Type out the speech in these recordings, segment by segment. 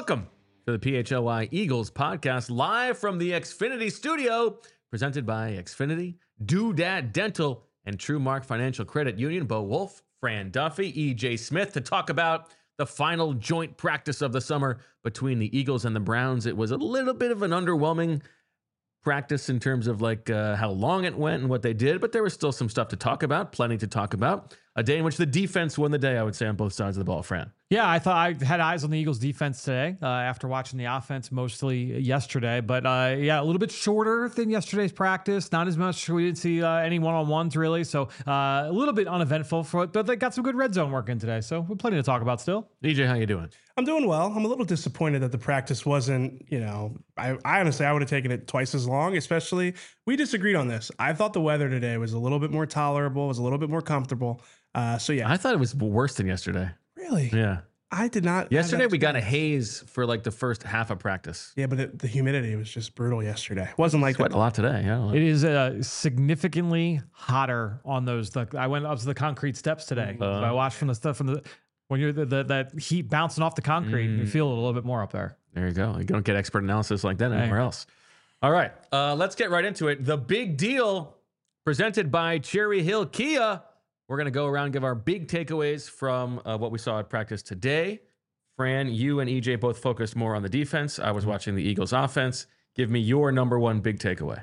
Welcome to the PHLY Eagles podcast, live from the Xfinity studio, presented by Xfinity, Doodad Dental, and TrueMark Financial Credit Union. Bo Wolf, Fran Duffy, EJ Smith to talk about the final joint practice of the summer between the Eagles and the Browns. It was a little bit of an underwhelming practice in terms of how long it went and what they did, but there was still some stuff to talk about, plenty to talk about. A day in which the defense won the day, I would say, on both sides of the ball, Fran. Yeah, I thought I had eyes on the Eagles defense today after watching the offense mostly yesterday. But yeah, a little bit shorter than yesterday's practice. Not as much. We didn't see any one-on-ones really. So a little bit uneventful, but they got some good red zone work in today. So we're plenty to talk about still. EJ, how you doing? I'm doing well. I'm a little disappointed that the practice wasn't, I honestly, I would have taken it twice as long, especially we disagreed on this. I thought the weather today was a little bit more tolerable, was a little bit more comfortable. So yeah. I thought it was worse than yesterday. Really? Yeah. I did not. Yesterday we got a haze for the first half of practice. Yeah, but the humidity was just brutal yesterday. It wasn't like Sweat that. a lot today. Yeah. It is significantly hotter on those. I went up to the concrete steps today. So I watched from the stuff when you're that heat bouncing off the concrete, you feel it a little bit more up there. There you go. You don't get expert analysis like that anywhere else. All right. Let's get right into it. The big deal presented by Cherry Hill Kia. We're going to go around and give our big takeaways from what we saw at practice today. Fran, you and EJ both focused more on the defense. I was watching the Eagles offense. Give me your number one big takeaway.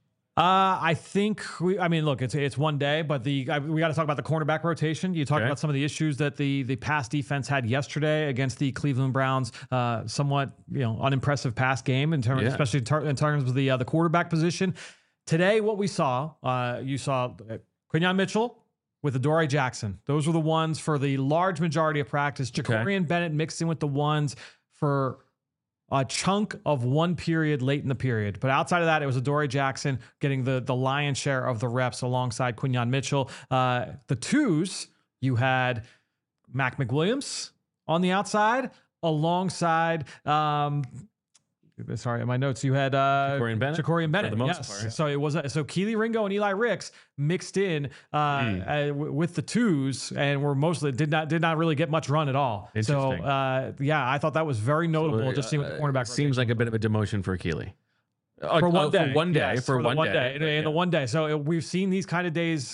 I think look, it's one day, but we got to talk about the cornerback rotation. You talked about some of the issues that the pass defense had yesterday against the Cleveland Browns. Somewhat unimpressive pass game especially in terms of the quarterback position. Today, what we saw, you saw Quinyon Mitchell with Adoree Jackson. Those were the ones for the large majority of practice. Jacorian Bennett mixed in with the ones for a chunk of one period late in the period. But outside of that, it was Adoree Jackson getting the lion's share of the reps alongside Quinyon Mitchell. The twos, you had Mac McWilliams on the outside alongside... sorry, in my notes, you had Jacorian Bennett. For the most part, yeah. So it was Kelee Ringo and Eli Ricks mixed in with the twos, and were mostly did not really get much run at all. So I thought that was very notable. Just seeing what the cornerback seems like a bit of a demotion for Kelee. For one day. For one day. In the one day. So we've seen these kind of days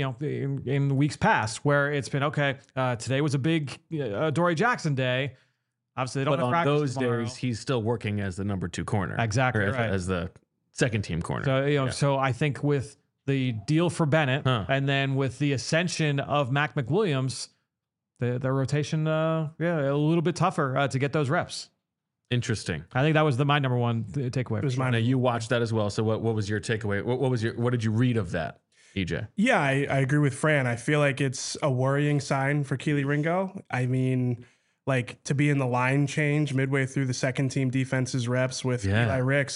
in weeks past where it's been, today was a big Adoree Jackson day. Obviously, they don't have practice those tomorrow. days, he's still working as the number two corner. Exactly, as the second team corner. So, so I think with the deal for Bennett and then with the ascension of Mac McWilliams, the rotation, a little bit tougher to get those reps. Interesting. I think that was my number one takeaway. It was mine. Now, you watched that as well. So what was your takeaway? What did you read of that, EJ? Yeah, I agree with Fran. I feel like it's a worrying sign for Kelee Ringo. I mean, to be in the line change midway through the second team defense's reps with Eli Ricks.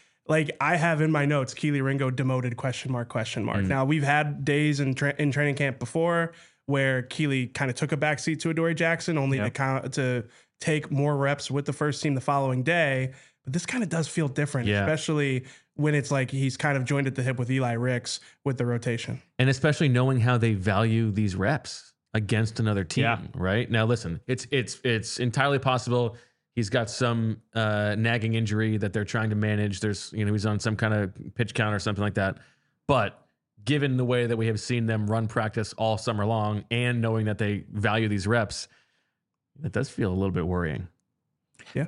I have in my notes, Kelee Ringo demoted ? Now, we've had days in training camp before where Kelee kind of took a backseat to Adoree Jackson only to take more reps with the first team the following day. But this kind of does feel different, especially when it's he's kind of joined at the hip with Eli Ricks with the rotation. And especially knowing how they value these reps against another team, right? Now, listen, it's entirely possible he's got some nagging injury that they're trying to manage. There's, he's on some kind of pitch count or something like that. But given the way that we have seen them run practice all summer long and knowing that they value these reps, that does feel a little bit worrying. Yeah.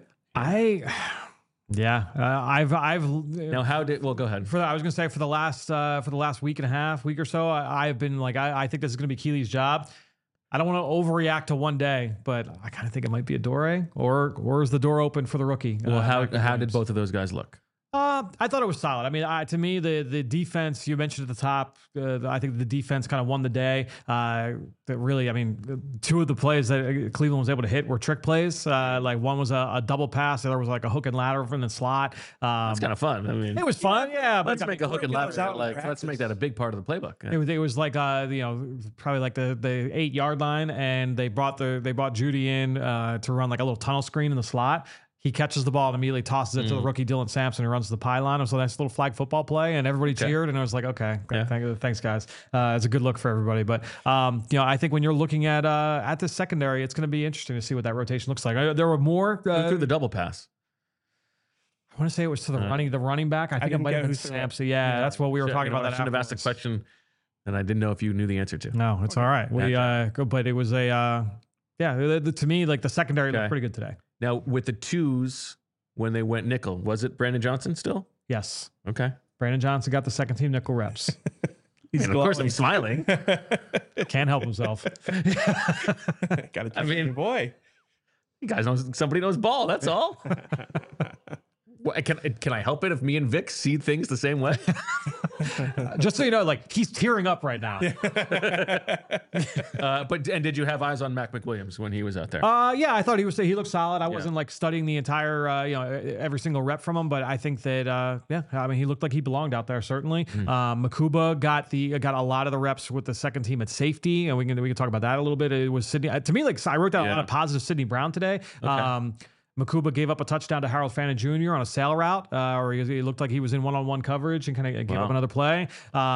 I've now go ahead. I was going to say for the last week or so, I've been I think this is going to be Keelee's job. I don't want to overreact to one day, but I kind of think it might be Adoree, or is the door open for the rookie? Well, how did both of those guys look? I thought it was solid. I mean, to me, the defense you mentioned at the top, I think the defense kind of won the day. That really, I mean, two of the plays that Cleveland was able to hit were trick plays. One was a double pass, the other was a hook and ladder from the slot. It's kind of fun. I mean, it was fun. Yeah, let's make a hook and ladder. Let's make that a big part of the playbook. Yeah. It was probably the 8-yard line, and they brought Judy in to run a little tunnel screen in the slot. he catches the ball and immediately tosses it to the rookie Dylan Sampson, who runs to the pylon. It was a nice little flag football play, and everybody cheered. And I was like, okay, thanks, guys. It's a good look for everybody. But I think when you're looking at this secondary, it's going to be interesting to see what that rotation looks like. There were more through the double pass. I want to say it was to the running back. I think it might have been Sampson. Yeah, that's what we were talking about. I should have asked a question that I didn't know if you knew the answer to. No, it's all right. But it was to me, like the secondary looked pretty good today. Now with the twos, when they went nickel, was it Brandon Johnson still? Yes. Okay. Brandon Johnson got the second team nickel reps. And of course, I'm smiling. Can't help himself. Got a boy. You guys know somebody knows ball. That's all. Can I help it if me and Vic see things the same way? Just so you know, like he's tearing up right now. But did you have eyes on Mac McWilliams when he was out there? Yeah, I thought he looked solid. I wasn't like studying the entire every single rep from him, but I think that he looked like he belonged out there certainly. Makuba got a lot of the reps with the second team at safety, and we can talk about that a little bit. It was Sidney. To me, like I wrote down a lot of positive Sidney Brown today. Okay. Makuba gave up a touchdown to Harold Fannin Jr. on a sail route, or he looked like he was in one-on-one coverage and kind of gave up another play.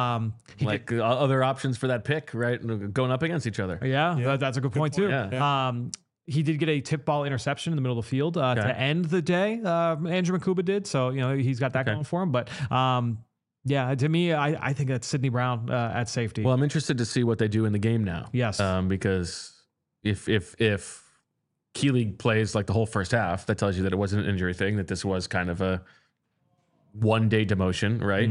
Other options for that pick, right? Going up against each other. Yeah. That's a good point too. Yeah. He did get a tip ball interception in the middle of the field to end the day. Andrew Makuba did, so he's got that going for him. But to me, I think that's Sidney Brown at safety. Well, I'm interested to see what they do in the game now. Yes, because if Keeley plays like the whole first half, that tells you that it wasn't an injury thing, that this was kind of a one-day demotion, right?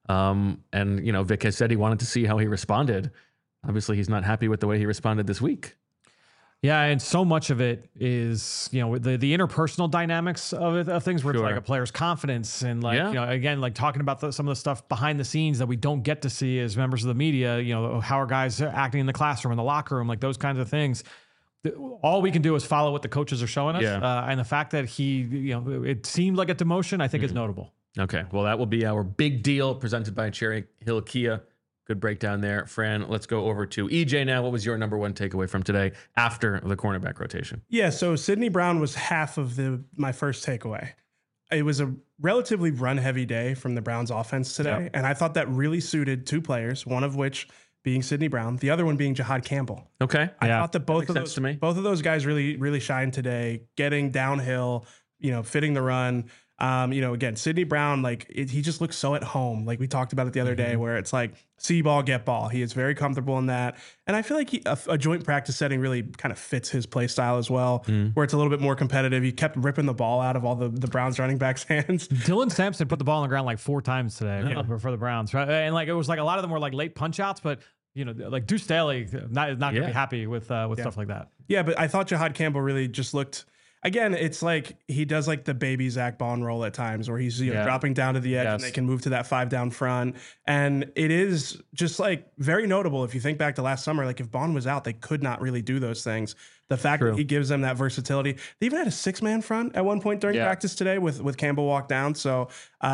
And, Vic has said he wanted to see how he responded. Obviously, he's not happy with the way he responded this week. Yeah, and so much of it is, the interpersonal dynamics of things where it's like a player's confidence and again, like talking about some of the stuff behind the scenes that we don't get to see as members of the media, how are guys acting in the classroom, in the locker room, like those kinds of things. All we can do is follow what the coaches are showing us. And the fact that it seemed like a demotion, I think is notable. Okay. Well, that will be our big deal presented by Cherry Hill Kia. Good breakdown there. Fran, let's go over to EJ now. What was your number one takeaway from today after the cornerback rotation? Yeah. So Sidney Brown was half of my first takeaway. It was a relatively run heavy day from the Browns offense today. And I thought that really suited two players, one of which being Sidney Brown, the other one being Jihad Campbell. Okay. I thought that both of those guys really, really shined today, getting downhill, fitting the run. Again, Sidney Brown, he just looks so at home. Like we talked about it the other day, where it's like see ball, get ball. He is very comfortable in that. And I feel like a joint practice setting really kind of fits his play style as well, where it's a little bit more competitive. He kept ripping the ball out of all the Browns running backs' hands. Dylan Sampson put the ball on the ground like 4 times today for the Browns, right? And it was like a lot of them were like late punch outs, but like Deuce Staley is not going to be happy with stuff like that. Yeah, but I thought Jihad Campbell really just looked. Again, it's like he does like the baby Zach Bond roll at times where he's dropping down to the edge and they can move to that 5 down front. And it is just like very notable if you think back to last summer, like if Bond was out, they could not really do those things. The fact that he gives them that versatility. They even had a 6-man front at one point during practice today with Campbell walk down. So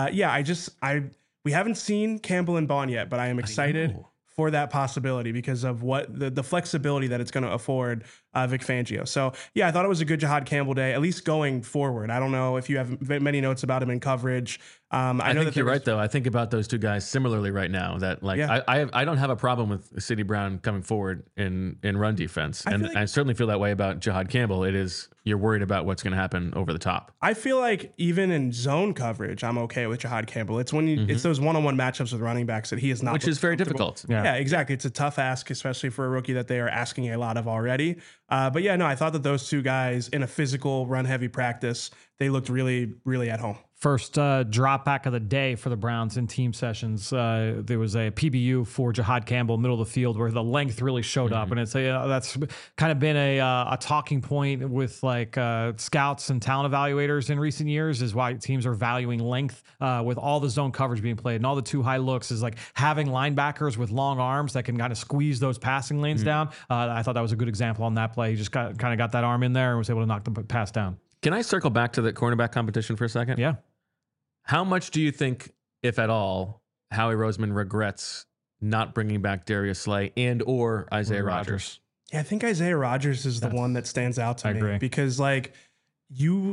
we haven't seen Campbell and Bond yet, but I am excited for that possibility because of what the flexibility that it's going to afford Vic Fangio. So, I thought it was a good Jihad Campbell day, at least going forward. I don't know if you have many notes about him in coverage. I think you're right, though. I think about those two guys similarly right now. That I don't have a problem with Sidney Brown coming forward in run defense, and I certainly feel that way about Jihad Campbell. It is you're worried about what's going to happen over the top. I feel like even in zone coverage, I'm okay with Jihad Campbell. It's when it's those one-on-one matchups with running backs that he is not, which is very difficult. Yeah, exactly. It's a tough ask, especially for a rookie that they are asking a lot of already. I thought that those two guys in a physical run-heavy practice, they looked really, really at home. First drop back of the day for the Browns in team sessions. There was a PBU for Jihad Campbell, middle of the field, where the length really showed up, and it's that's kind of been a talking point with scouts and talent evaluators in recent years. Is why teams are valuing length with all the zone coverage being played and all the too high looks. Is like having linebackers with long arms that can kind of squeeze those passing lanes down. I thought that was a good example on that play. He just kind of got that arm in there and was able to knock the pass down. Can I circle back to the cornerback competition for a second? Yeah. How much do you think, if at all, Howie Roseman regrets not bringing back Darius Slay and or Isaiah Rodgers? Yeah, I think Isaiah Rodgers is the one that stands out to me. Agree. Because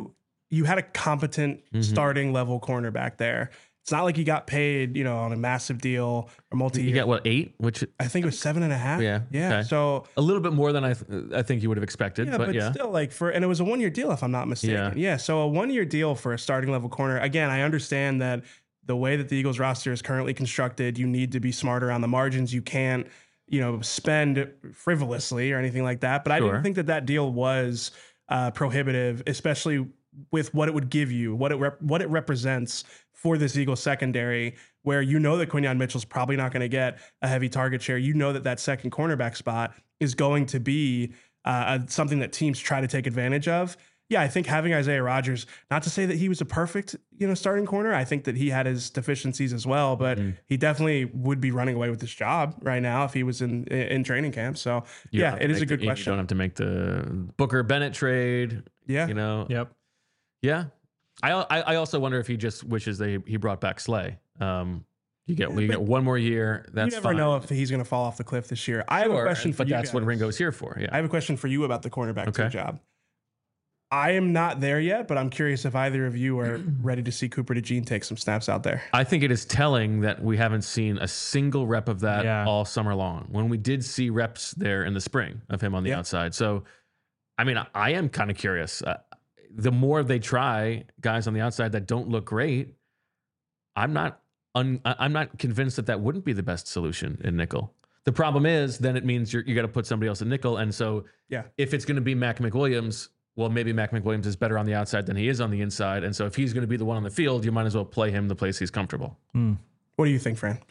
you had a competent starting level cornerback there. It's not like you got paid, on a massive deal or multi-year. You got what, 8? Which I think it was 7.5. Yeah. Yeah. Okay. So a little bit more than I think you would have expected. yeah, but still, like and it was a 1-year deal if I'm not mistaken. Yeah. So a 1-year deal for a starting level corner. Again, I understand that the way that the Eagles roster is currently constructed, you need to be smarter on the margins. You can't, spend frivolously or anything like that. But I didn't think that deal was prohibitive, especially with what it would give you, what it represents for this Eagles secondary, where that Quinyon Mitchell's probably not going to get a heavy target share. That second cornerback spot is going to be something that teams try to take advantage of. Yeah, I think having Isaiah Rodgers, not to say that he was a perfect, starting corner. I think that he had his deficiencies as well, but he definitely would be running away with this job right now if he was in training camp. So it is a good question. You don't have to make the Booker Bennett trade. Yeah. Yep. Yeah. I also wonder if he just wishes he brought back Slay. You get one more year. That's you never fine. know if he's going to fall off the cliff this year. I have a question for you. But that's what Ringo's here for. Yeah. I have a question for you about the cornerback job. I am not there yet, but I'm curious if either of you are ready to see Cooper DeJean take some snaps out there. I think it is telling that we haven't seen a single rep of that all summer long, when we did see reps there in the spring of him on the outside. So, I mean, I am kind of curious. The more they try guys on the outside that don't look great, I'm not convinced that wouldn't be the best solution in nickel. The problem is then it means you got to put somebody else in nickel. And so if it's going to be Mac McWilliams, well, maybe Mac McWilliams is better on the outside than he is on the inside. And so if he's going to be the one on the field, you might as well play him the place he's comfortable. What do you think, Fran?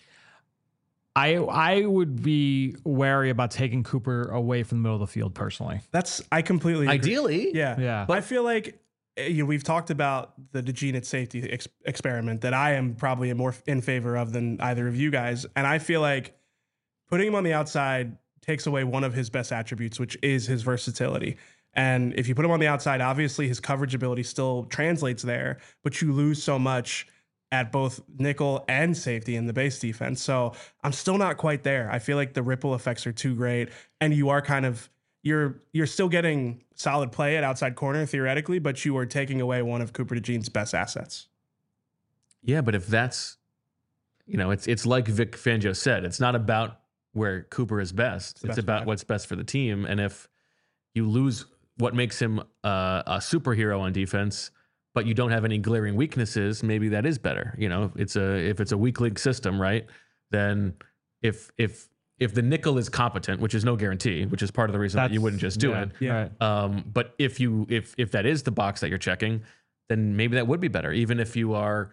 I would be wary about taking Cooper away from the middle of the field personally. I completely agree. Ideally. Yeah. But I feel like we've talked about the DeJean at safety experiment that I am probably more in favor of than either of you guys. And I feel like putting him on the outside takes away one of his best attributes, which is his versatility. And if you put him on the outside, obviously his coverage ability still translates there, but you lose so much at both nickel and safety in the base defense. So I'm still not quite there. I feel like the ripple effects are too great. And you are you're still getting solid play at outside corner theoretically, but you are taking away one of Cooper DeJean's best assets. Yeah, but if that's, it's like Vic Fangio said, it's not about where Cooper is best. It's about what's best for the team. And if you lose what makes him a superhero on defense, but you don't have any glaring weaknesses, maybe that is better. If it's a weak league system, right? Then if the nickel is competent, which is no guarantee, which is part of the reason that you wouldn't just do it. Yeah. But if that is the box that you're checking, then maybe that would be better. Even if you are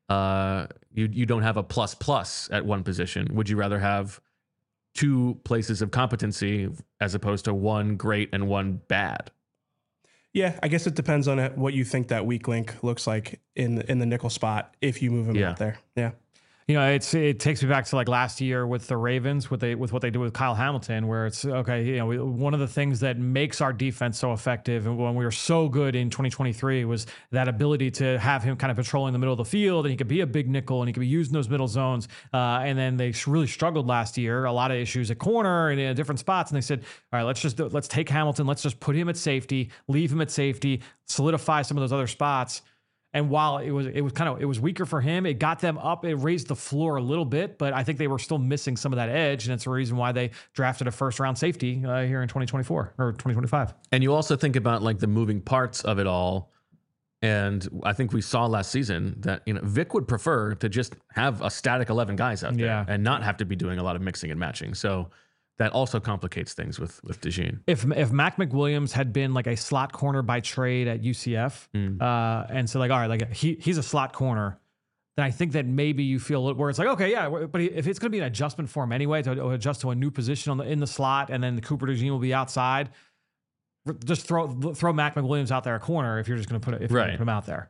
you don't have a plus at one position, would you rather have 2 places of competency as opposed to one great and one bad? Yeah, I guess it depends on what you think that weak link looks like in the nickel spot if you move him out there. Yeah. It takes me back to like last year with the Ravens, with what they do with Kyle Hamilton, where it's okay. One of the things that makes our defense so effective, and when we were so good in 2023, was that ability to have him kind of patrolling the middle of the field, and he could be a big nickel, and he could be using those middle zones. And then they really struggled last year, a lot of issues at corner and in different spots. And they said, all right, let's take Hamilton, let's just put him at safety, leave him at safety, solidify some of those other spots. And while it was weaker for him, it got them up. It raised the floor a little bit, but I think they were still missing some of that edge, and it's the reason why they drafted a first-round safety here in 2024 or 2025. And you also think about like the moving parts of it all, and I think we saw last season that Vic would prefer to just have a static 11 guys out there and not have to be doing a lot of mixing and matching. So that also complicates things with DeJean. If Mac McWilliams had been like a slot corner by trade at UCF, and so like, all right, like he's a slot corner, then I think that maybe you feel where it's like, okay, yeah, but if it's going to be an adjustment for him anyway, to adjust to a new position in the slot, and then the Cooper DeJean will be outside, just throw Mac McWilliams out there a corner if you're just going to put him out there.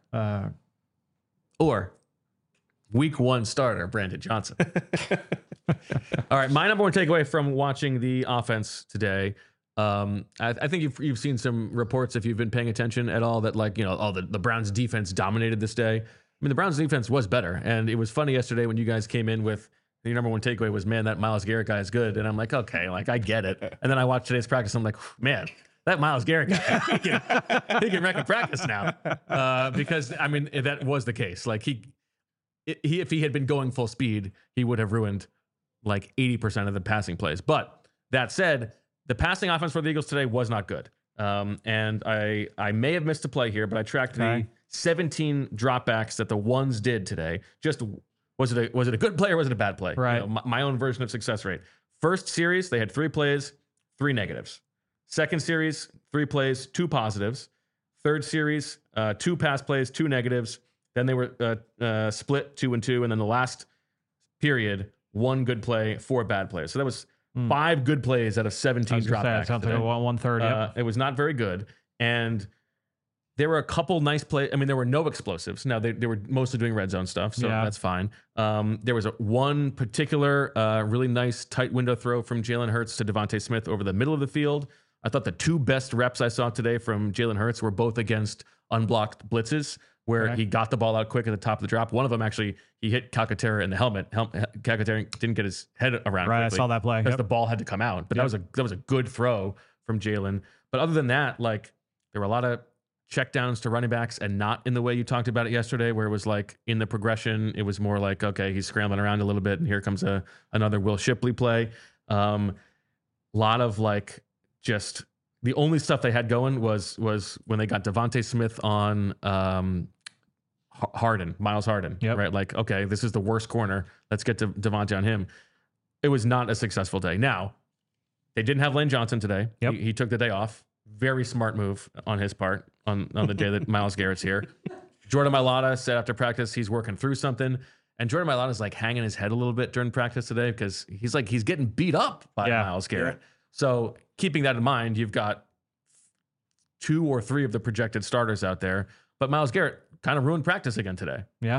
Or week 1 starter, Brandon Johnson. All right, my number 1 takeaway from watching the offense today, I think you've seen some reports, if you've been paying attention at all, that the Browns defense dominated this day. I mean, the Browns defense was better, and it was funny yesterday when you guys came in with your number 1 takeaway was, man, that Myles Garrett guy is good, and I'm like, okay, like I get it. And then I watched today's practice, I'm like, man, that Myles Garrett guy, he can wreck a practice now. Because I mean, if that was the case, like if he had been going full speed, he would have ruined like 80% of the passing plays. But that said, the passing offense for the Eagles today was not good. And I may have missed a play here, but I tracked the 17 dropbacks that the ones did today. Just was it a good play or was it a bad play? Right. You know, my own version of success rate. First series, they had 3 plays, 3 negatives. Second series, 3 plays, 2 positives. Third series, 2 pass plays, 2 negatives. Then they were split 2 and 2, and then the last period, 1 good play, 4 bad plays. So that was 5 good plays out of 17 dropbacks. Sounds like a 130. Yep. It was not very good, and there were a couple nice plays. I mean, there were no explosives. Now they were mostly doing red zone stuff, so that's fine. There was one particular really nice tight window throw from Jalen Hurts to Devontae Smith over the middle of the field. I thought the 2 best reps I saw today from Jalen Hurts were both against unblocked blitzes, where he got the ball out quick at the top of the drop. One of them actually, he hit Calcaterra in the helmet. Calcaterra didn't get his head around. Right, I saw that play because the ball had to come out. But that was a good throw from Jalen. But other than that, like there were a lot of checkdowns to running backs, and not in the way you talked about it yesterday, where it was like in the progression, it was more like, okay, he's scrambling around a little bit, and here comes another Will Shipley play. Lot of like just the only stuff they had going was when they got Devontae Smith on Miles Harden, right? Like, okay, this is the worst corner. Let's get to Devontae on him. It was not a successful day. Now, they didn't have Lane Johnson today. He took the day off. Very smart move on his part on the day that Myles Garrett's here. Jordan Mailata said after practice he's working through something. And Jordan Mailata's like hanging his head a little bit during practice today because he's getting beat up by Myles Garrett. So keeping that in mind, you've got 2 or 3 of the projected starters out there. But Myles Garrett kind of ruined practice again today. Yeah.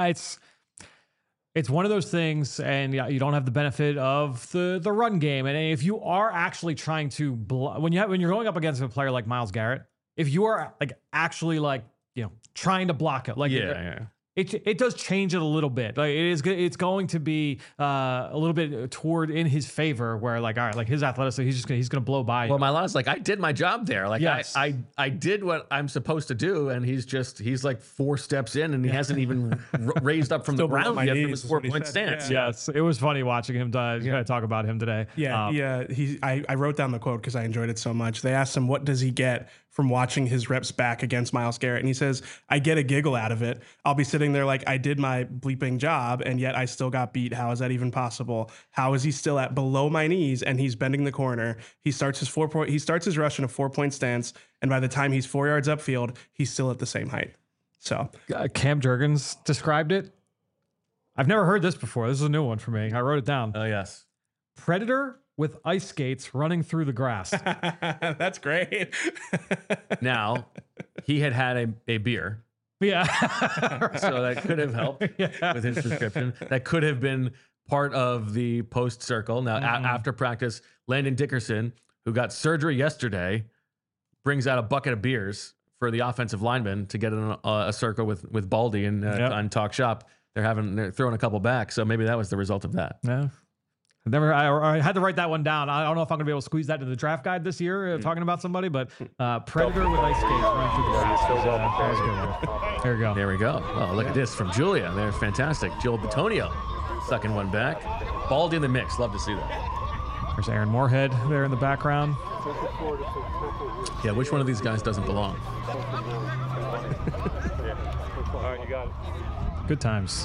It's one of those things, and you don't have the benefit of the run game. And if you are actually trying to when you're going up against a player like Myles Garrett, if you are like actually like trying to block it, like it does change it a little bit. Like it's going to be a little bit toward in his favor, where like, all right, like his athleticism, he's gonna blow by. Well, Mailata's like, I did my job there. Like I did what I'm supposed to do, and he's like 4 steps in, and he hasn't even raised up from the ground yet from his 4-point stance. Yes, it was funny watching him talk about him today. I wrote down the quote because I enjoyed it so much. They asked him, what does he get from watching his reps back against Myles Garrett? And he says, I get a giggle out of it. I'll be sitting there like, I did my bleeping job, and yet I still got beat. How is that even possible? How is he still at below my knees and he's bending the corner? He starts his rush in a 4-point stance, and by the time he's 4 yards upfield, he's still at the same height. So Cam Jurgens described it. I've never heard this before. This is a new one for me. I wrote it down. Oh, yes. Predator with ice skates running through the grass. That's great. Now, he had a beer. Yeah. So that could have helped with his description. That could have been part of the post circle. Now, after practice, Landon Dickerson, who got surgery yesterday, brings out a bucket of beers for the offensive lineman to get in a circle with Baldy and on Talk Shop. They're throwing a couple back. So maybe that was the result of that. Yeah. I had to write that one down. I don't know if I'm going to be able to squeeze that into the draft guide this year, talking about somebody, but Predator with ice skates running through the grass was good. There we go. There we go. Oh, look at this from Julia. They're fantastic. Joel Batonio sucking one back. Baldy in the mix. Love to see that. There's Aaron Moorhead there in the background. Yeah, which one of these guys doesn't belong? All right, you got it. Good times.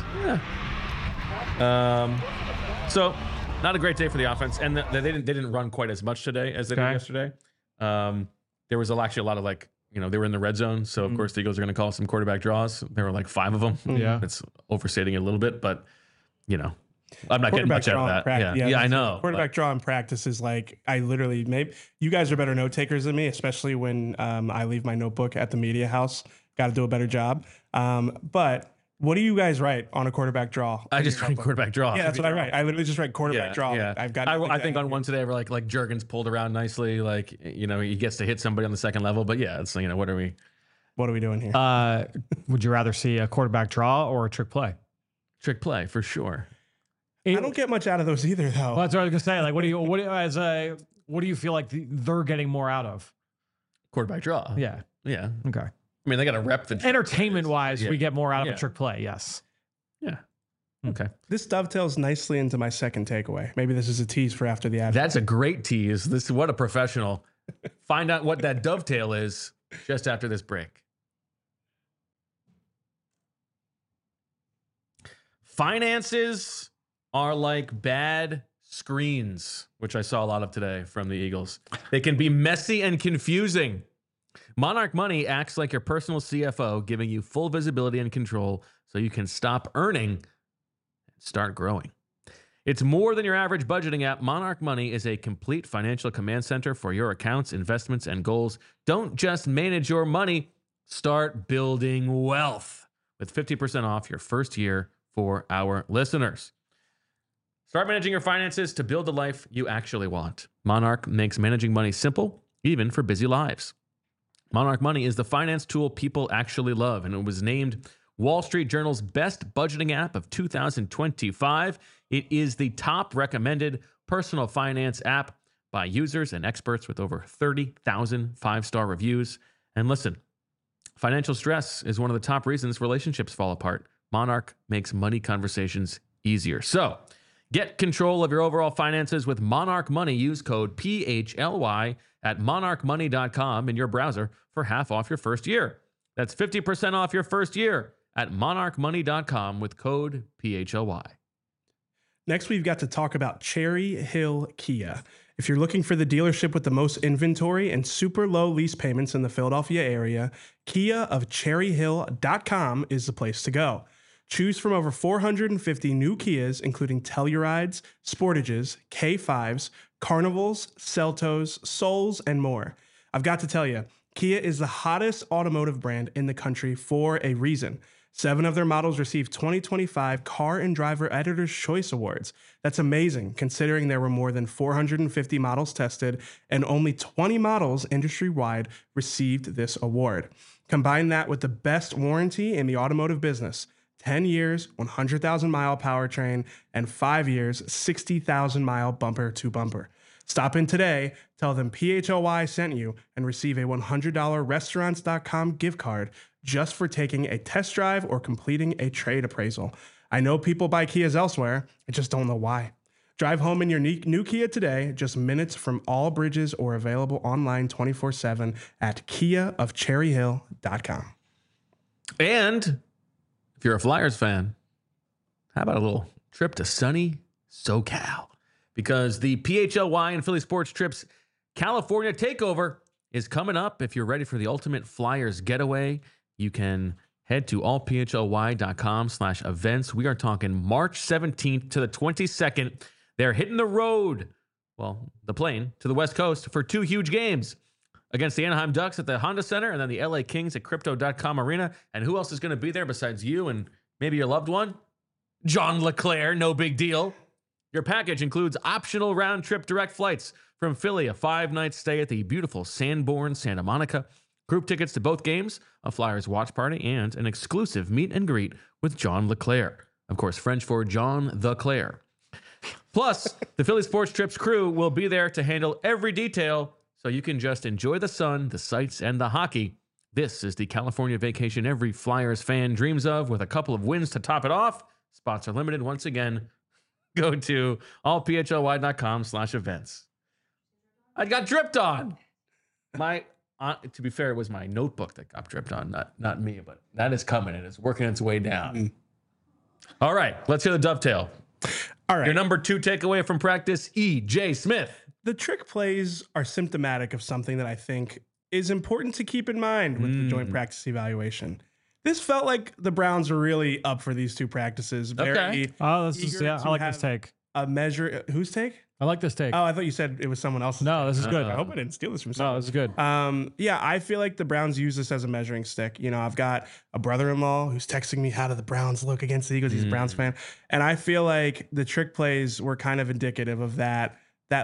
Yeah. So, not a great day for the offense, and they didn't run quite as much today as they did yesterday. There was actually a lot of they were in the red zone, so of course the Eagles are going to call some quarterback draws. There were like 5 of them. Yeah, it's overstating it a little bit, but I'm not getting much out of that. Yeah, I know. Quarterback draw in practice is like, maybe you guys are better note takers than me, especially when I leave my notebook at the media house. Got to do a better job. But what do you guys write on a quarterback draw? I just write quarterback draw. Yeah, that's what I write. I literally just write quarterback draw. Yeah. I think on one today where like Jurgens pulled around nicely, like he gets to hit somebody on the second level. But yeah, it's what are we doing here? Would you rather see a quarterback draw or a trick play? Trick play for sure. I don't get much out of those either, though. Well, that's what I was gonna say. Like, what do you feel like they're getting more out of? quarterback draw. Yeah. Yeah. Okay. I mean, they got to rep the Entertainment wise, Yeah. we get more out of Yeah. a trick play. Yes. Yeah. Okay. This dovetails nicely into my second takeaway. Maybe this is a tease for after the ad. That's a great tease. This is what a professional. Find out what that dovetail is just after this break. Finances are like bad screens, which I saw a lot of today from the Eagles. They can be messy and confusing. Monarch Money acts like your personal CFO, giving you full visibility and control so you can stop earning and start growing. It's more than your average budgeting app. Monarch Money is a complete financial command center for your accounts, investments, and goals. Don't just manage your money, start building wealth with 50% off your first year for our listeners. Start managing your finances to build the life you actually want. Monarch makes managing money simple, even for busy lives. Monarch Money is the finance tool people actually love, and it was named Wall Street Journal's best budgeting app of 2025. It is the top recommended personal finance app by users and experts with over 30,000 five-star reviews. And listen, financial stress is one of the top reasons relationships fall apart. Monarch makes money conversations easier. So get control of your overall finances with Monarch Money. Use code PHLY at monarchmoney.com in your browser for half off your first year. That's 50% off your first year at monarchmoney.com with code PHLY. Next, we've got to talk about Cherry Hill Kia. If you're looking for the dealership with the most inventory and super low lease payments in the Philadelphia area, Kia of cherryhill.com is the place to go. Choose from over 450 new Kias, including Tellurides, Sportages, K5s, Carnivals, Celtos, Souls, and more. I've got to tell you, Kia is the hottest automotive brand in the country for a reason. 7 of their models received 2025 Car and Driver Editor's Choice Awards. That's amazing, considering there were more than 450 models tested and only 20 models industry-wide received this award. Combine that with the best warranty in the automotive business. 10 years, 100,000-mile powertrain, and 5 years, 60,000-mile bumper-to-bumper. Stop in today, tell them PHLY sent you, and receive a $100 Restaurants.com gift card just for taking a test drive or completing a trade appraisal. I know people buy Kias elsewhere, I just don't know why. Drive home in your new Kia today, just minutes from all bridges or available online 24/7 at kiaofcherryhill.com. And if you're a Flyers fan, how about a little trip to sunny SoCal? Because the PHLY and Philly Sports Trips California Takeover is coming up. If you're ready for the ultimate Flyers getaway, you can head to allphlY.com/events. We are talking March 17th to the 22nd. They're hitting the road, well, the plane, to the West Coast for 2 huge games against the Anaheim Ducks at the Honda Center and then the LA Kings at Crypto.com Arena. And who else is going to be there besides you and maybe your loved one? John LeClair, no big deal. Your package includes optional round-trip direct flights from Philly, a 5-night stay at the beautiful Sanborn, Santa Monica, group tickets to both games, a Flyers watch party, and an exclusive meet and greet with John LeClair. Of course, French for John the Claire. Plus, the Philly Sports Trips crew will be there to handle every detail so you can just enjoy the sun, the sights, and the hockey. This is the California vacation every Flyers fan dreams of, with a couple of wins to top it off. Spots are limited once again. Go to allphlY.com/events. I got dripped on. To be fair, it was my notebook that got dripped on, not me, but that is coming and it's working its way down. All right, let's hear the dovetail. All right. Your number 2 takeaway from practice, E.J. Smith. The trick plays are symptomatic of something that I think is important to keep in mind with the joint practice evaluation. This felt like the Browns were really up for these 2 practices. Okay. Oh, this is, yeah, I like this take. A measure. Whose take? I like this take. Oh, I thought you said it was someone else's. No, this is good. I hope I didn't steal this from someone. No, this is good. Yeah, I feel like the Browns use this as a measuring stick. You know, I've got a brother-in-law who's texting me, how do the Browns look against the Eagles? He's a Browns fan. And I feel like the trick plays were kind of indicative of that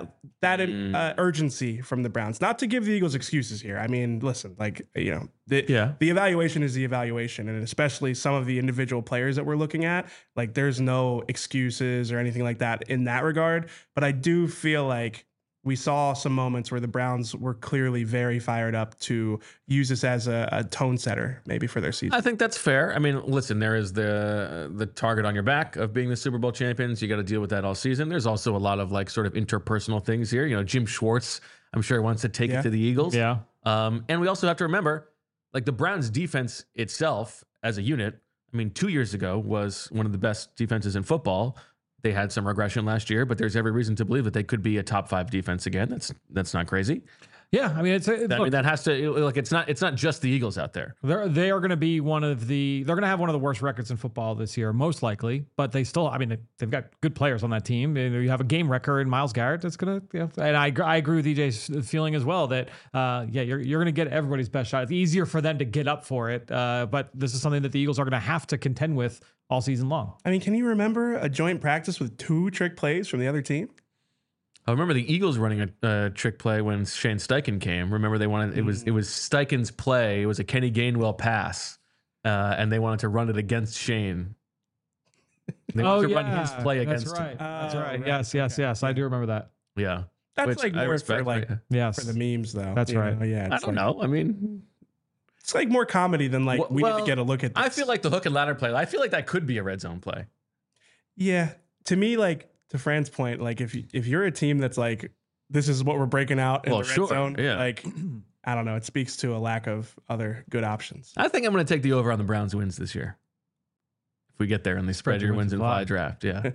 urgency from the Browns. Not to give the Eagles excuses here. I mean, listen, like, you know, the evaluation is the evaluation, and especially some of the individual players that we're looking at, like, there's no excuses or anything like that in that regard. But I do feel like we saw some moments where the Browns were clearly very fired up to use this as a tone setter, maybe for their season. I think that's fair. I mean, listen, there is the target on your back of being the Super Bowl champions. You got to deal with that all season. There's also a lot of like sort of interpersonal things here. You know, Jim Schwartz, I'm sure wants to take it to the Eagles. Yeah. And we also have to remember, like the Browns defense itself as a unit, I mean, 2 years ago was one of the best defenses in football. They had some regression last year, but there's every reason to believe that they could be a top 5 defense again. That's not crazy. Yeah, I mean, That has to like it's not just the Eagles out there. They are going to be they're going to have one of the worst records in football this year, most likely. But they still, I mean, they've got good players on that team. You have a game record in Myles Garrett. That's going to, and I agree with EJ's feeling as well that you're going to get everybody's best shot. It's easier for them to get up for it, but this is something that the Eagles are going to have to contend with all season long. I mean, can you remember a joint practice with 2 trick plays from the other team? I remember the Eagles running a trick play when Shane Steichen came. Remember they wanted it was Steichen's play. It was a Kenny Gainwell pass, and they wanted to run it against Shane. They wanted to run his play against him. That's right. Yes. I do remember that. Yeah, That's like more for like for the memes though. That's right. Yeah, I don't know. I mean, it's like more comedy than like we need to get a look at this. I feel like the hook and ladder play. I feel like that could be a red zone play. Yeah, to me, like to Fran's point, like if you're a team that's like this is what we're breaking out in the red zone, like I don't know, it speaks to a lack of other good options. I think I'm going to take the over on the Browns wins this year. If we get there and they spread your wins and fly draft, yeah.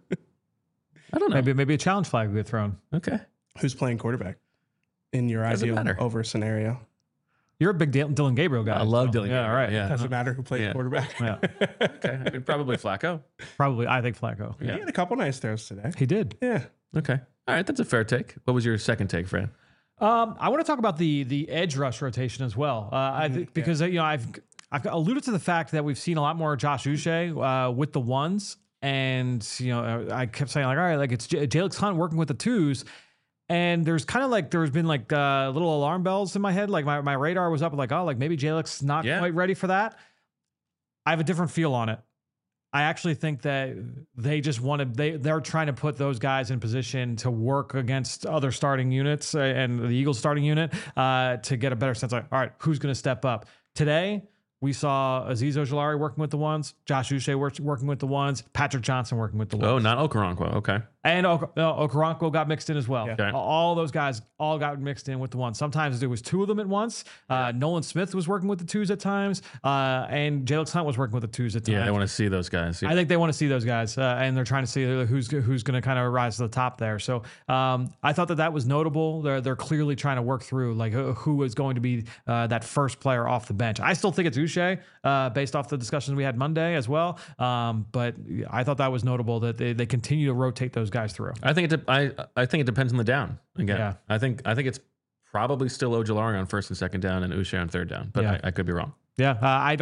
I don't know. Maybe a challenge flag will get thrown. Okay. Who's playing quarterback in your ideal over scenario? You're a big Dylan Gabriel guy. I love Dylan Gabriel. Yeah, all right. Yeah. Doesn't matter who plays quarterback. Yeah. Okay. I mean, probably Flacco. Probably, I think Flacco. He had a couple nice throws today. He did. Yeah. Okay. All right. That's a fair take. What was your second take, Fran? I want to talk about the edge rush rotation as well. I think because you know I've alluded to the fact that we've seen a lot more Josh Uche with the ones, and you know I kept saying like, all right, like it's Jalen Hunt working with the twos. And there's kind of like there's been like little alarm bells in my head. Like my radar was up like, oh, like maybe Jalen's not quite ready for that. I have a different feel on it. I actually think that they just wanted they're trying to put those guys in position to work against other starting units and the Eagles starting unit to get a better sense of all right, who's going to step up today. We saw Azeez Ojulari working with the ones, Josh Uche working with the ones, Patrick Johnson working with the ones. Oh, not Okoronkwo. Okay. And Okoronkwo got mixed in as well. Yeah. Okay. All those guys all got mixed in with the ones. Sometimes there was 2 of them at once. Nolan Smith was working with the twos at times, and Jalen Hunt was working with the twos at times. Yeah, they want to see those guys. Yeah. I think they want to see those guys, and they're trying to see who's going to kind of rise to the top there. So I thought that was notable. They're clearly trying to work through like who is going to be that first player off the bench. I still think it's Uche, based off the discussions we had Monday as well. But I thought that was notable that they continue to rotate those guys through. I think it depends on the down again. Yeah. I think it's probably still Ojulari on first and second down and Uche on third down, but I could be wrong. Yeah,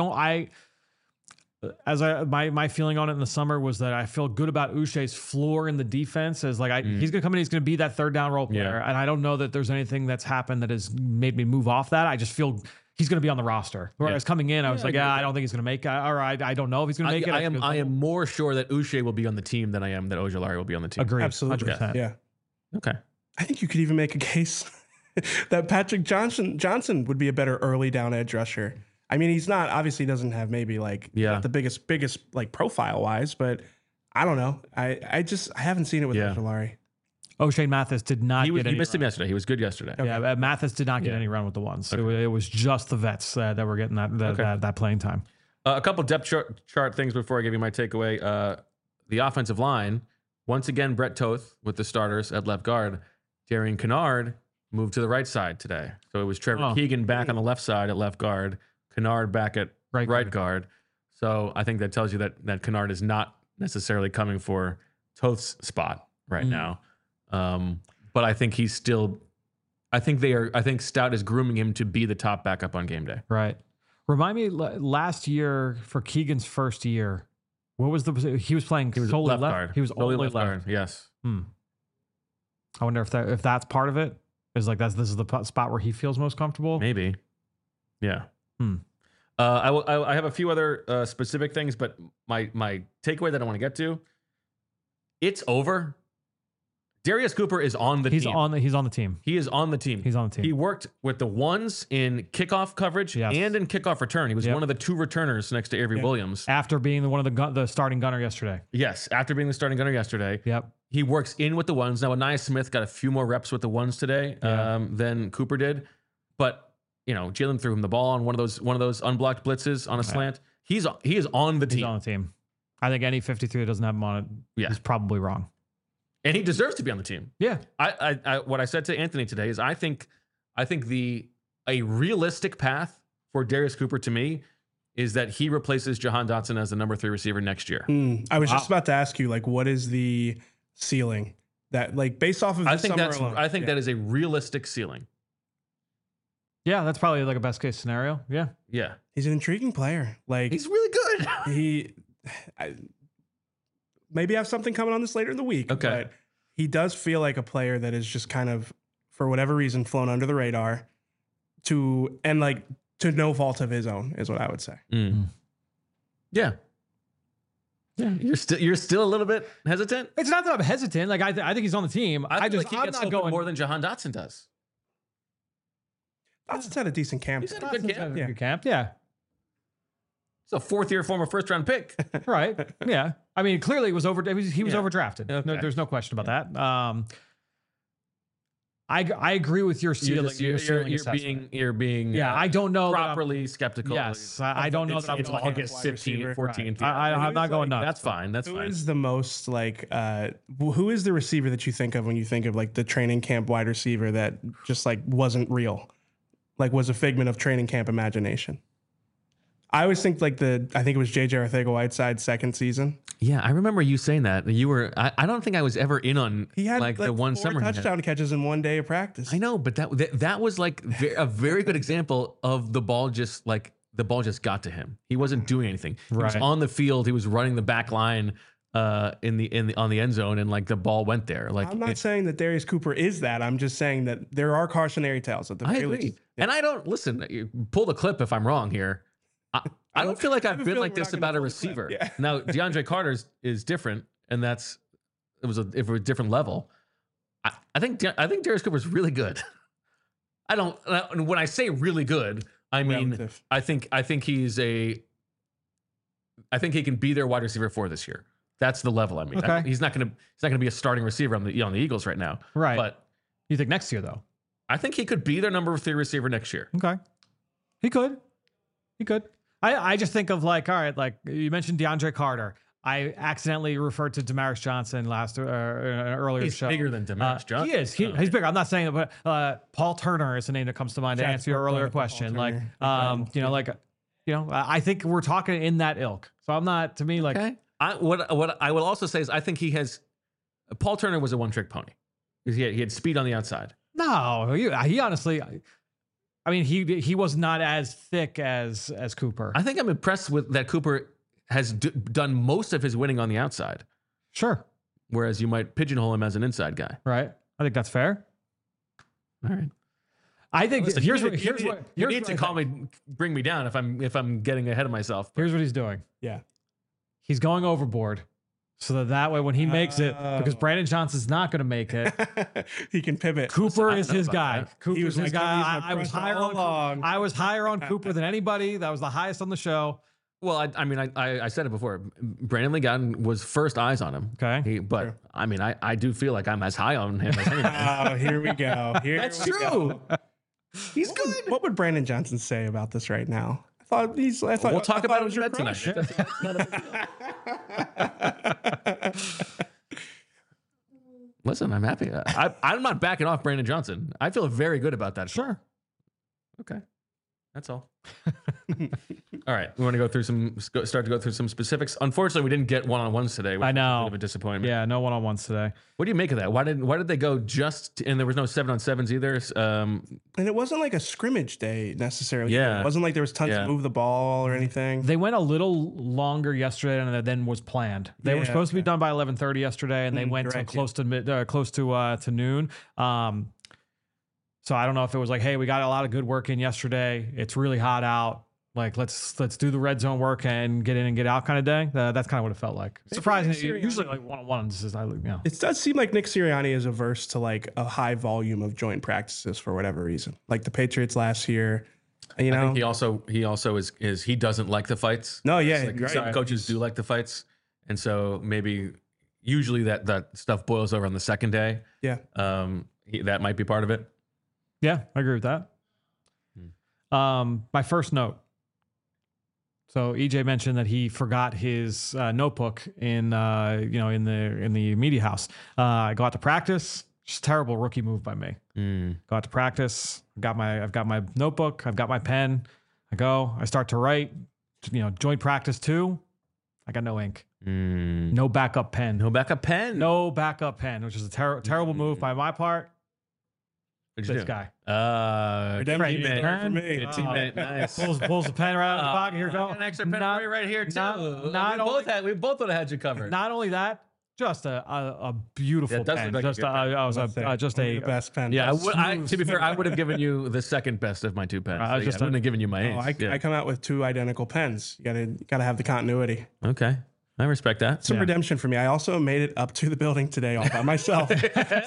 my feeling on it in the summer was that I feel good about Uche's floor in the defense as like he's gonna come in, he's gonna be that third down role player, and I don't know that there's anything that's happened that has made me move off that. I just feel he's going to be on the roster. Whereas coming in, I was like, I don't think he's going to make it. Or I don't know if he's going to make it. I am more sure that Uche will be on the team than I am that Ojulari will be on the team. Agreed. Absolutely. 100%. Yeah. Okay. I think you could even make a case that Patrick Johnson would be a better early down edge rusher. I mean, he's not, obviously doesn't have maybe like not the biggest like profile wise, but I don't know. I haven't seen it with Ojulari. O'Shane Mathis did not get any You missed run. him yesterday. He was good yesterday. Okay. Yeah, Mathis did not get any run with the ones. Okay. It was just the vets that were getting that playing time. A couple depth chart things before I give you my takeaway. The offensive line, once again, Brett Toth with the starters at left guard. Darian Kennard moved to the right side today. So it was Trevor Keegan back on the left side at left guard, Kennard back at right guard. So I think that tells you that Kennard is not necessarily coming for Toth's spot right now. But I think he's still. I think Stout is grooming him to be the top backup on game day. Right. Remind me, last year for Keegan's first year, what was he was playing solely left guard. He was solely only left guard. Yes. I wonder if that's part of it. Is like this is the spot where he feels most comfortable. Maybe. Yeah. I have a few other specific things, but my takeaway that I want to get to. It's over. Darius Cooper is on the He's team. He's on the team. He is on the team. He's on the team. He worked with the ones in kickoff coverage and in kickoff return. He was one of the 2 returners next to Avery Williams. After being one of the starting gunner yesterday. Yes, after being the starting gunner yesterday. Yep. He works in with the ones. Now, Aniyah Smith got a few more reps with the ones today than Cooper did. But, Jalen threw him the ball on one of those unblocked blitzes on a slant. He is on the team. He's on the team. I think any 53 that doesn't have him on it is probably wrong. And he deserves to be on the team. Yeah. What I said to Anthony today is I think a realistic path for Darius Cooper to me is that he replaces Jahan Dotson as the number 3 receiver next year. I was just about to ask you, what is the ceiling that, based off of this summer alone? I think that is a realistic ceiling. Yeah, that's probably a best case scenario. Yeah. Yeah. He's an intriguing player. He's really good. Maybe have something coming on this later in the week. Okay. But he does feel like a player that is just kind of, for whatever reason, flown under the radar to no fault of his own, is what I would say. Yeah. Yeah. You're still a little bit hesitant? It's not that I'm hesitant. I think he's on the team. I feel I'm gets not going more than Jahan Dotson does. Dotson's had a decent camp. He's had a good camp. Good camp. Yeah. It's a 4th-year former first-round pick. Right. Yeah. I mean, clearly he was overdrafted. Okay. There's no question about that. I agree with your ceiling. You're being I don't know properly skeptical. Yes, I don't know that I'm it's August 15, 14. Right. I'm not going nuts. That's fine. That's who fine. Who is the most who is the receiver that you think of when you think of the training camp wide receiver that just wasn't real, was a figment of training camp imagination? I always think I think it was JJ Arcega-Whiteside's second season. Yeah, I remember you saying that. You were. I don't think I was ever in on. He had the one 4 summer touchdown catches in one day of practice. I know, but that was a very good example of the ball just got to him. He wasn't doing anything. He was on the field. He was running the back line on the end zone, and the ball went there. I'm not saying that Darius Cooper is that. I'm just saying that there are cautionary tales at the very least. And I don't listen. Pull the clip if I'm wrong here. I don't feel like I've been like this about a receiver. Yeah. Now, DeAndre Carter is different, and it was a different level. I think Darius Cooper is really good. When I say really good, I mean relative. I think he can be their wide receiver 4 this year. That's the level. I mean, okay. He's not gonna be a starting receiver on the Eagles right now. Right. But you think next year though? I think he could be their number 3 receiver next year. Okay. He could. I just think of all right, you mentioned DeAndre Carter. I accidentally referred to Demarcus Johnson earlier He's show. Bigger than Demarcus Johnson. He is. He's bigger. I'm not saying that, but Paul Turner is the name that comes to mind to answer your earlier question. I think we're talking in that ilk. So I'm not, to me, okay. What I will also say is I think Paul Turner was a one-trick pony. He had speed on the outside. No, he honestly. I mean, he was not as thick as Cooper. I think I'm impressed with that Cooper has done most of his winning on the outside. Sure. Whereas you might pigeonhole him as an inside guy. Right. I think that's fair. All right. I think you need to bring me down if I'm getting ahead of myself. Here's what he's doing. Yeah. He's going overboard. So that way, when he makes it, because Brandon Johnson's not going to make it, he can pivot. Cooper is his guy. Cooper's his guy. I was higher on Cooper than anybody. That was the highest on the show. Well, I said it before. Brandon Lee Gowton was first eyes on him. Okay. But I do feel like I'm as high on him as anybody. Oh, here we go. That's true. He's good. What would Brandon Johnson say about this right now? We'll talk about it with tonight. Listen, I'm happy. I'm not backing off Brandon Johnson. I feel very good about that. Sure. Okay. That's all. All right. We want to start to go through some specifics. Unfortunately, we didn't get one-on-ones today. I know. A bit of a disappointment. Yeah, no one-on-ones today. What do you make of that? Why did they go and there was no 7-on-7s either? And it wasn't like a scrimmage day necessarily. Yeah. It wasn't like there was tons to move the ball or anything. They went a little longer yesterday than was planned. They were supposed to be done by 11:30 yesterday, and they went close to noon. So I don't know if it was like, hey, we got a lot of good work in yesterday. It's really hot out. like let's do the red zone work and get in and get out kind of day. That's kind of what it felt like. Surprisingly, usually like one-on-ones is It does seem like Nick Sirianni is averse to like a high volume of joint practices for whatever reason. Like the Patriots last year, you know. I think he also is he doesn't like the fights. No, yeah, Like right. some coaches do like the fights, and so maybe usually that stuff boils over on the second day. Yeah. That might be part of it. Yeah, I agree with that. My first note. So EJ mentioned that he forgot his notebook in the media house. I go out to practice. Just terrible rookie move by me. Go out to practice. I've got my notebook. I've got my pen. I start to write. Joint practice 2. I got no ink. No backup pen. No backup pen. No backup pen, which is a terrible move by my part. What'd you This do? guy. Redemption teammate. for me. Good teammate. Nice. Pulls the pen right out of the pocket. Here we I go. got an extra pen Not- for you right here too. not we both would have had you covered. Not only that, just a beautiful Yeah, it does pen. look like a Just good pen. just One of a the best pen. Yeah, to be fair, I would have given you the second best of my 2 pens. I I just- wouldn't have given you my Oh, ace. I come out with 2 identical pens. You gotta have the continuity. Okay, I respect that. Some redemption for me. I also made it up to the building today all by myself. Give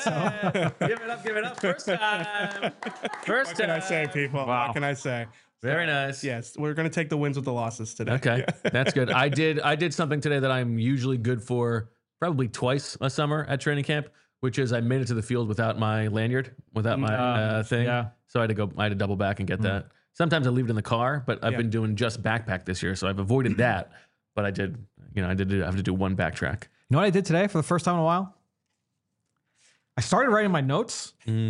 it up. First time. First What can I time. say, people? Wow. What can I say? Very nice. Yes, we're gonna take the wins with the losses today. Okay, that's good. I did something today that I'm usually good for probably twice a summer at training camp, which is I made it to the field without my lanyard, without my thing. yeah. So I had to double back and get that. Sometimes I leave it in the car, but I've Yeah. been doing just backpack this year, so I've avoided that. But I did have to do one backtrack. You know what I did today for the first time in a while? I started writing my notes.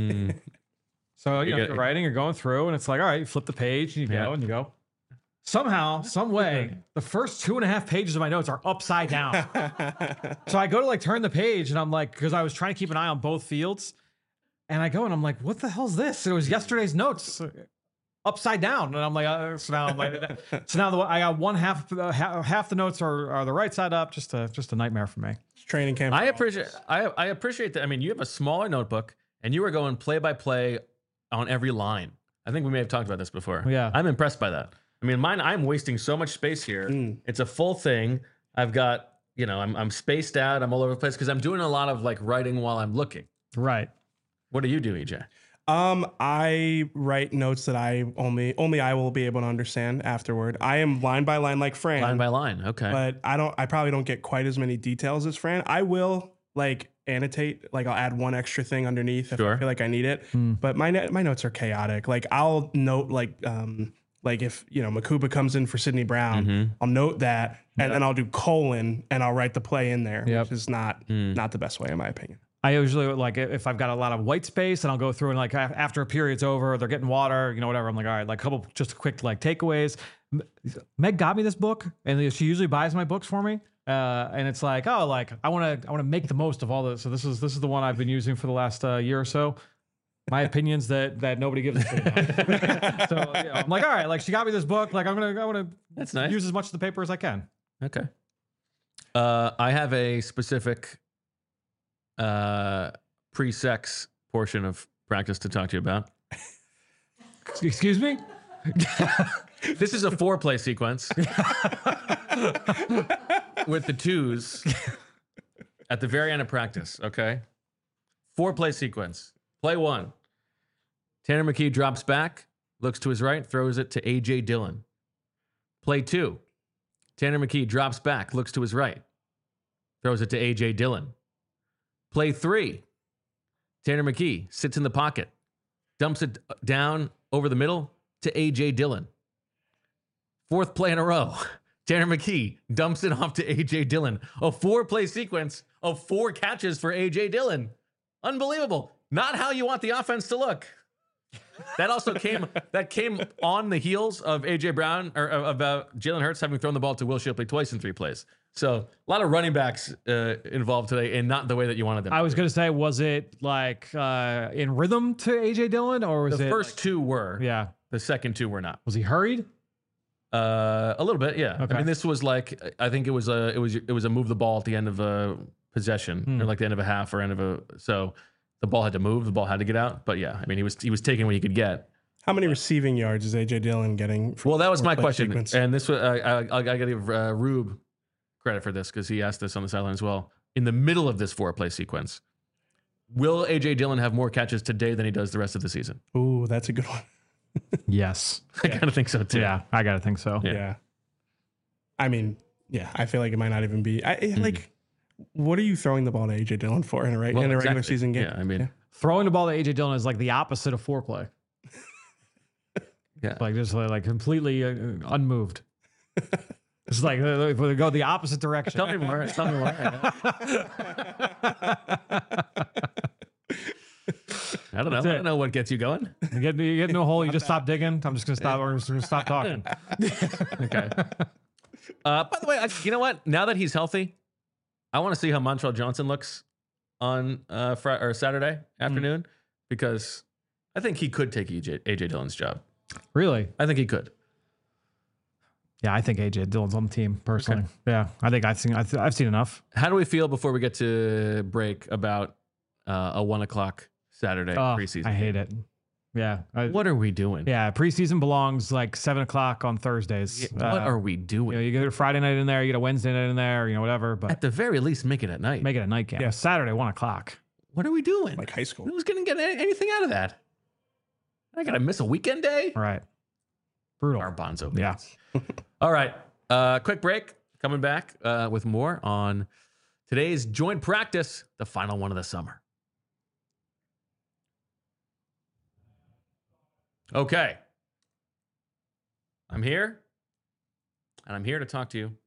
So you're writing, you're going through, and it's like, all right, you flip the page, and you go. Somehow, some way, the first 2.5 pages of my notes are upside down. So I go to like turn the page, and I'm like, because I was trying to keep an eye on both fields, and I go and I'm like, what the hell's this? And it was yesterday's notes upside down, and I'm like, so now I got one half the notes are the right side up. Just a nightmare for me. Training camp. I appreciate that. I mean, you have a smaller notebook, and you are going play by play on every line. I think we may have talked about this before. Yeah. I'm impressed by that. I mean, mine, I'm wasting so much space here. It's a full thing. I've got, I'm spaced out. I'm all over the place because I'm doing a lot of like writing while I'm looking. Right. What do you do, EJ? I write notes that I only I will be able to understand afterward. I am line by line like Fran. Line by line. Okay. But I probably don't get quite as many details as Fran. I will like annotate, like I'll add one extra thing underneath if I feel like I need it. But my notes are chaotic. Like I'll note like if Makuba comes in for Sidney Brown, I'll note that and then I'll do colon and I'll write the play in there, which is not the best way in my opinion. I usually like if I've got a lot of white space and I'll go through and like after a period's over, they're getting water, whatever. I'm like, all right, like a couple just quick like takeaways. Meg got me this book, and she usually buys my books for me. And it's like, oh, like I want to make the most of all this. So this is the one I've been using for the last year or so. My opinions that nobody gives a shit about. So I'm like, all right, like she got me this book. Like I want to That's nice. use as much of the paper as I can. Okay. I have a specific pre-sex portion of practice to talk to you about. Excuse me? This is a foreplay sequence with the twos at the very end of practice, okay? Foreplay sequence. Play 1. Tanner McKee drops back, looks to his right, throws it to A.J. Dillon. Play 2. Tanner McKee drops back, looks to his right, throws it to A.J. Dillon. Play 3. Tanner McKee sits in the pocket, dumps it down over the middle to A.J. Dillon. 4th play in a row. Tanner McKee dumps it off to A.J. Dillon. A 4-play sequence of 4 catches for A.J. Dillon. Unbelievable. Not how you want the offense to look. That also came on the heels of A.J. Brown or of Jalen Hurts having thrown the ball to Will Shipley twice in 3 plays. So a lot of running backs involved today, and not the way that you wanted them. I was going to say, was it like in rhythm to A.J. Dillon, or was The it first 2 were. Yeah. The second 2 were not. Was he hurried? A little bit, yeah. Okay. I mean, this was like, I think it was a move the ball at the end of a possession, or like the end of a half or end of a. So the ball had to move, the ball had to get out. But yeah, I mean, he was taking what he could get. How many receiving yards is A.J. Dillon getting? Well, that was my question. Sequence? And this was, I got to give Rube credit for this because he asked this on the sideline as well. In the middle of this 4-play sequence, will A.J. Dillon have more catches today than he does the rest of the season? Ooh, that's a good one. Yes. I kind of think so too. Yeah, I got to think so. Yeah. I mean, yeah, I feel like it might not even be. Like, what are you throwing the ball to A.J. Dillon for in a regular exactly. season game? Yeah, I mean, Throwing the ball to A.J. Dillon is like the opposite of foreplay. yeah. Like just like completely unmoved. It's like they go the opposite direction. Tell me more. Tell me more. I don't know. I don't know what gets you going. You get into a hole, you just stop digging. I'm just gonna stop. We're just gonna stop talking. Okay. By the way, you know what? Now that he's healthy, I want to see how Montrell Johnson looks on Friday or Saturday afternoon because I think he could take AJ Dillon's job. Really? I think he could. Yeah, I think AJ Dillon's on the team personally. Okay. Yeah, I think I've seen enough. How do we feel before we get to break about a 1:00 Saturday preseason? I hate it. Yeah. What are we doing? Yeah, preseason belongs like 7:00 on Thursdays. What are we doing? You get a Friday night in there, you get a Wednesday night in there, whatever. But At the very least, make it at night. make it a night game. Yeah. Saturday 1:00. What are we doing? Like high school. Who's going to get anything out of that? I got to miss a weekend day? Right. Brutal. Garbanzo. Yeah. All right. Quick break. Coming back with more on today's joint practice, the final one of the summer. Okay. I'm here, and I'm here to talk to you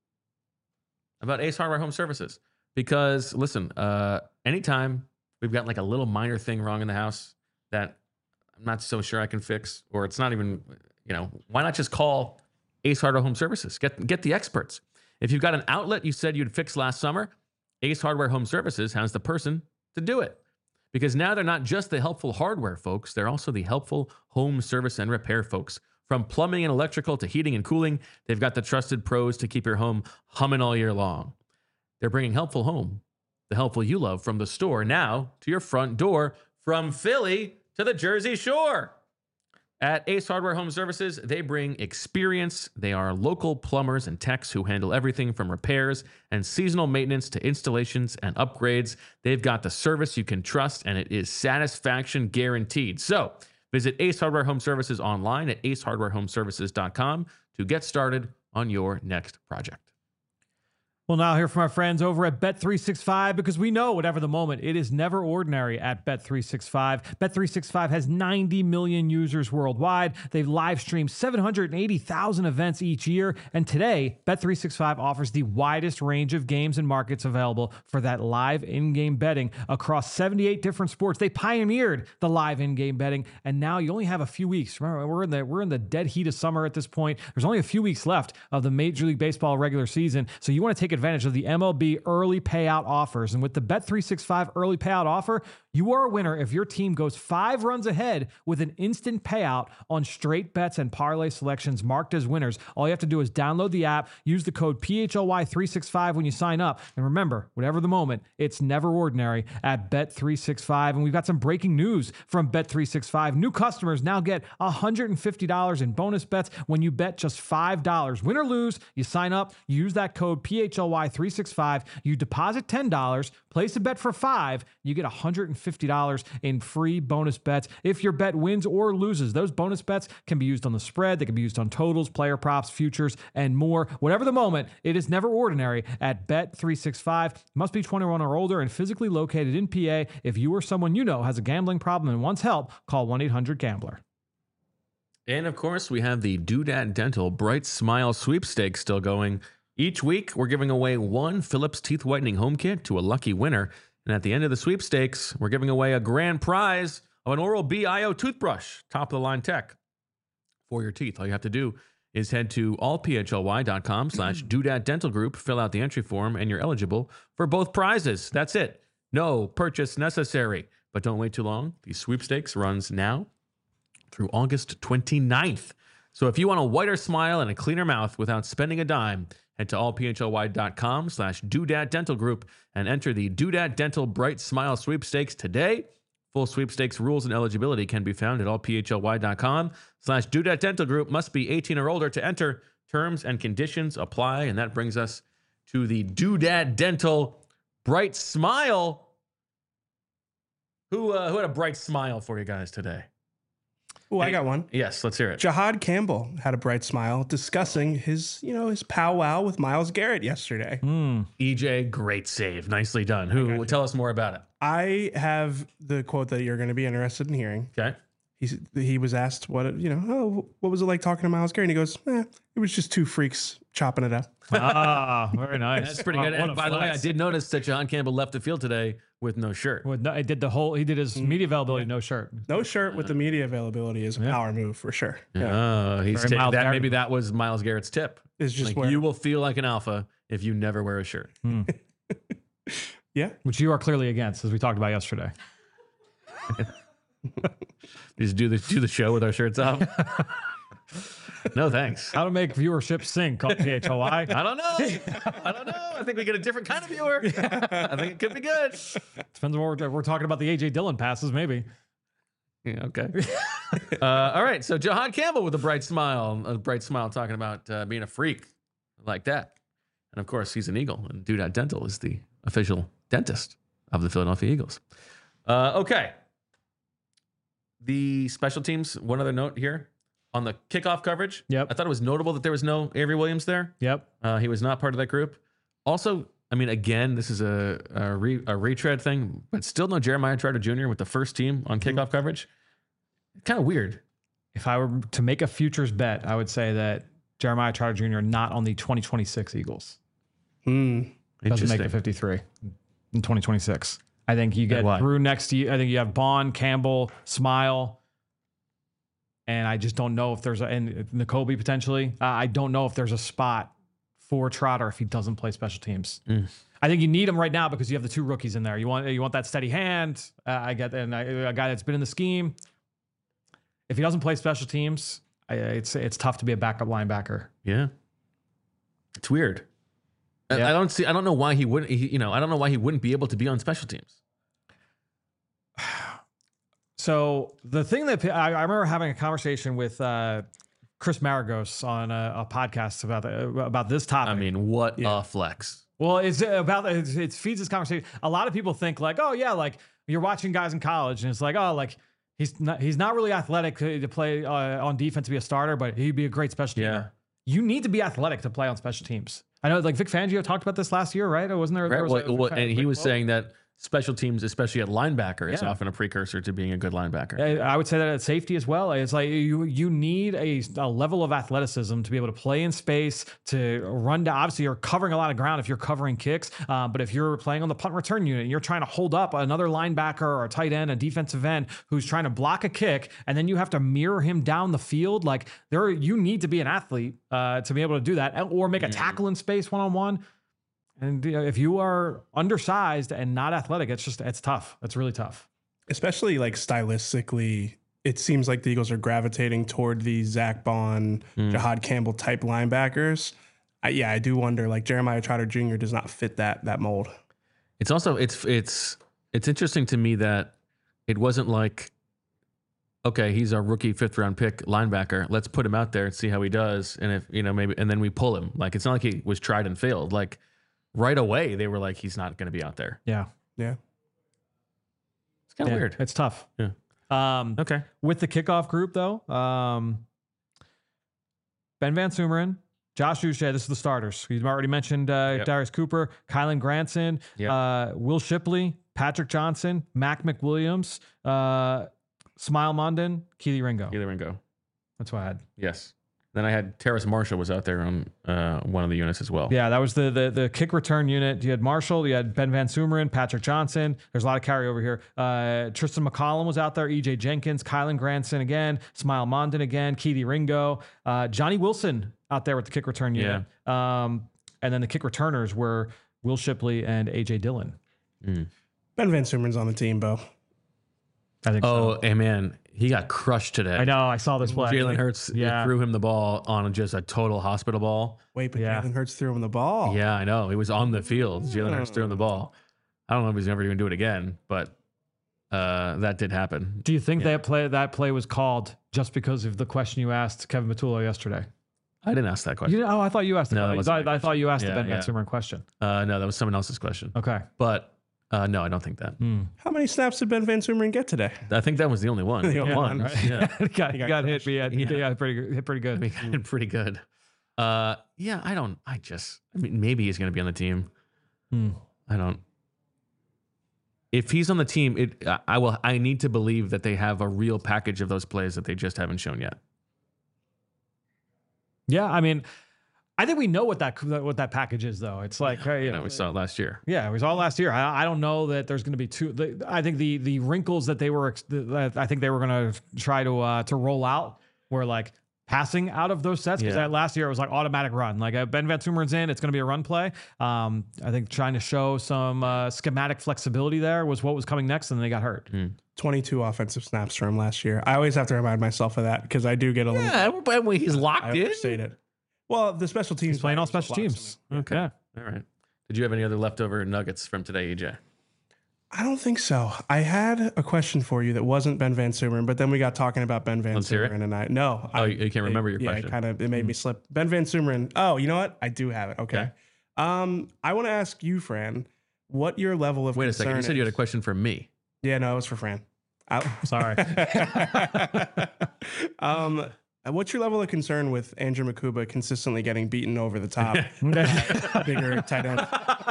about Ace Hardware Home Services. Because, listen, anytime we've got like a little minor thing wrong in the house that I'm not so sure I can fix, or it's not even, why not just call Ace Hardware Home Services? Get the experts. If you've got an outlet you said you'd fix last summer, Ace Hardware Home Services has the person to do it. Because now they're not just the helpful hardware folks, they're also the helpful home service and repair folks. From plumbing and electrical to heating and cooling, they've got the trusted pros to keep your home humming all year long. They're bringing helpful home, the helpful you love, from the store now to your front door, from Philly to the Jersey Shore. At Ace Hardware Home Services, they bring experience. They are local plumbers and techs who handle everything from repairs and seasonal maintenance to installations and upgrades. They've got the service you can trust, and it is satisfaction guaranteed. So visit Ace Hardware Home Services online at acehardwarehomeservices.com to get started on your next project. We'll now hear from our friends over at Bet365 because we know whatever the moment, it is never ordinary at Bet365. Bet365 has 90 million users worldwide. They live stream 780,000 events each year. And today, Bet365 offers the widest range of games and markets available for that live in-game betting across 78 different sports. They pioneered the live in-game betting, and now you only have a few weeks. Remember, we're in the dead heat of summer at this point. There's only a few weeks left of the Major League Baseball regular season, so you want to take advantage of the MLB early payout offers. And with the Bet365 early payout offer, you are a winner if your team goes 5 runs ahead with an instant payout on straight bets and parlay selections marked as winners. All you have to do is download the app, use the code PHLY365 when you sign up. And remember, whatever the moment, it's never ordinary at Bet365. And we've got some breaking news from Bet365. New customers now get $150 in bonus bets when you bet just $5. Win or lose, you sign up, you use that code PHLY365, you deposit $10, place a bet for $5, you get $150 in free bonus bets if your bet wins or loses. Those bonus bets can be used on the spread, they can be used on totals, player props, futures, and more. Whatever the moment, it is never ordinary at Bet365. Must be 21 or older and physically located in PA. If you or someone you know has a gambling problem and wants help, call 1-800-GAMBLER. And of course, we have the Doodad Dental Bright Smile Sweepstakes still going. Each week, we're giving away one Philips Teeth Whitening Home Kit to a lucky winner. And at the end of the sweepstakes, we're giving away a grand prize of an Oral-B iO toothbrush, top-of-the-line tech for your teeth. All you have to do is head to allphly.com/Doodad Dental Group, fill out the entry form, and you're eligible for both prizes. That's it. No purchase necessary. But don't wait too long. The sweepstakes runs now through August 29th. So if you want a whiter smile and a cleaner mouth without spending a dime, head to allphly.com/Doodad Dental Group and enter the Doodad Dental Bright Smile Sweepstakes today Full sweepstakes rules and eligibility can be found at allphly.com/Dudette Dental Group. Must be 18 or older to enter. Terms and conditions apply. And that brings us to the Dudette Dental Bright Smile. Who had a bright smile for you guys today? Oh, I got one. Yes, let's hear it. Jahad Campbell had a bright smile discussing his powwow with Myles Garrett yesterday. EJ, great save. Nicely done. Tell us more about it. I have the quote that you're going to be interested in hearing. Okay. He was asked what was it like talking to Myles Garrett? And he goes, it was just two freaks chopping it up. Very nice. That's pretty good. And by the way, I did notice that Jahad Campbell left the field today with no shirt. He did his media availability, no shirt. No shirt with the media availability is a power move for sure. Yeah. He's taking that. Maybe that was Myles Garrett's tip. It's just like, you will feel like an alpha if you never wear a shirt. Yeah. Which you are clearly against, as we talked about yesterday. Just do the show with our shirts off. No, thanks. How to make viewership sync on PHLY? I don't know. I think we get a different kind of viewer. I think it could be good. Depends on what we're talking about. The AJ Dillon passes, maybe. Yeah, okay. All right. So Jahad Campbell with a bright smile talking about being a freak like that. And of course, he's an Eagle, and Dudette Dental is the official dentist of the Philadelphia Eagles. Okay. The special teams, one other note here. On the kickoff coverage, Yep. I thought it was notable that there was no Avery Williams there. Yep. He was not part of that group. Also, I mean, again, this is a retread thing, but still no Jeremiah Trotter Jr. with the first team on kickoff coverage. Kind of weird. If I were to make a futures bet, I would say that Jeremiah Trotter Jr. not on the 2026 Eagles. Doesn't make the 53 in 2026. I think you get through next year. I think you have Bond, Campbell, Smile. And I just don't know if there's and Nakobe potentially. I don't know if there's a spot for Trotter if he doesn't play special teams. I think you need him right now because you have the two rookies in there. You want that steady hand. I get a guy that's been in the scheme. If he doesn't play special teams, it's tough to be a backup linebacker. Yeah, it's weird. Yeah. I don't know why he wouldn't. I don't know why he wouldn't be able to be on special teams. So the thing that I remember having a conversation with Chris Maragos on a podcast about this topic. I mean, what a flex. Well, it feeds this conversation. A lot of people think like, oh yeah, like you're watching guys in college and it's like, oh, like he's not really athletic to play on defense to be a starter, but he'd be a great special teamer. You need to be athletic to play on special teams. I know like Vic Fangio talked about this last year, right? Or wasn't there? And he was saying that special teams, especially at linebacker, is often a precursor to being a good linebacker. I would say that at safety as well. It's like you need a level of athleticism to be able to play in space, to run down. Obviously, you're covering a lot of ground if you're covering kicks. But if you're playing on the punt return unit and you're trying to hold up another linebacker or a tight end, a defensive end who's trying to block a kick, and then you have to mirror him down the field, like you need to be an athlete to be able to do that, or make a tackle in space one-on-one. And if you are undersized and not athletic, it's tough. It's really tough. Especially like stylistically, it seems like the Eagles are gravitating toward the Zach Bond, Jahad Campbell type linebackers. I do wonder, like Jeremiah Trotter Jr. does not fit that mold. It's also, it's interesting to me that it wasn't like, okay, he's our rookie 5th round pick linebacker. Let's put him out there and see how he does. And if, maybe, and then we pull him. Like, it's not like he was tried and failed. Like, right away, they were like, he's not going to be out there. Yeah. Yeah. It's kind of weird. It's tough. Yeah. Okay. With the kickoff group, though, Ben Van Sumeren, Josh Uche, this is the starters. You've already mentioned Darius Cooper, Kylan Granson, Will Shipley, Patrick Johnson, Mac McWilliams, Smile Mondon, Keely Ringo. That's what I had. Yes. Then I had Terrace Marshall was out there on one of the units as well. Yeah, that was the kick return unit. You had Marshall, you had Ben Van Sumeren, Patrick Johnson. There's a lot of carryover here. Tristan McCollum was out there, EJ Jenkins, Kylan Granson again, Smile Mondon again, Keely Ringo, Johnny Wilson out there with the kick return unit. Yeah. And then the kick returners were Will Shipley and AJ Dillon. Ben Van Sumeren's on the team, Bo. I think so. Oh, and man, he got crushed today. I know. I saw this play. Jalen Hurts threw him the ball on just a total hospital ball. Wait, but Jalen Hurts threw him the ball. Yeah, I know. He was on the field. Jalen Hurts threw him the ball. I don't know if he's never going to do it again, but that did happen. Do you think that play was called just because of the question you asked Kevin Matullo yesterday? I didn't ask that question. I thought you asked. No, I thought you asked the Ben Van Sumeren question. No, that was someone else's question. Okay, but no, I don't think that. How many snaps did Ben Van Sumeren get today? I think that was the only one. The only one, right? Yeah, he got hit. Pretty good. He got hit pretty good. I mean, maybe he's going to be on the team. I don't. If he's on the team, I need to believe that they have a real package of those plays that they just haven't shown yet. Yeah, I mean, I think we know what that package is, though. It's like we saw it last year. Yeah, we saw it last year. I don't know that there's going to be I think the wrinkles that they were going to try to roll out were like passing out of those sets, because last year it was like automatic run. Like Ben Van Sumeren's in, it's going to be a run play. I think trying to show some schematic flexibility there was what was coming next, and then they got hurt. 22 offensive snaps for him last year. I always have to remind myself of that because I do get a little. Yeah, when he's locked in. It. Well, the special teams. He's playing all special teams. Okay. Yeah. All right. Did you have any other leftover nuggets from today, EJ? I don't think so. I had a question for you that wasn't Ben Van Sumeren, but then we got talking about Ben Van Sumeren, and you can't remember your question. It made me slip. Ben Van Sumeren. Oh, you know what? I do have it. Okay. I want to ask you, Fran, what your level of Wait a second. You said you had a question for me. Yeah, no, it was for Fran. Sorry. What's your level of concern with Andrew Mukuba consistently getting beaten over the top? Bigger tight end.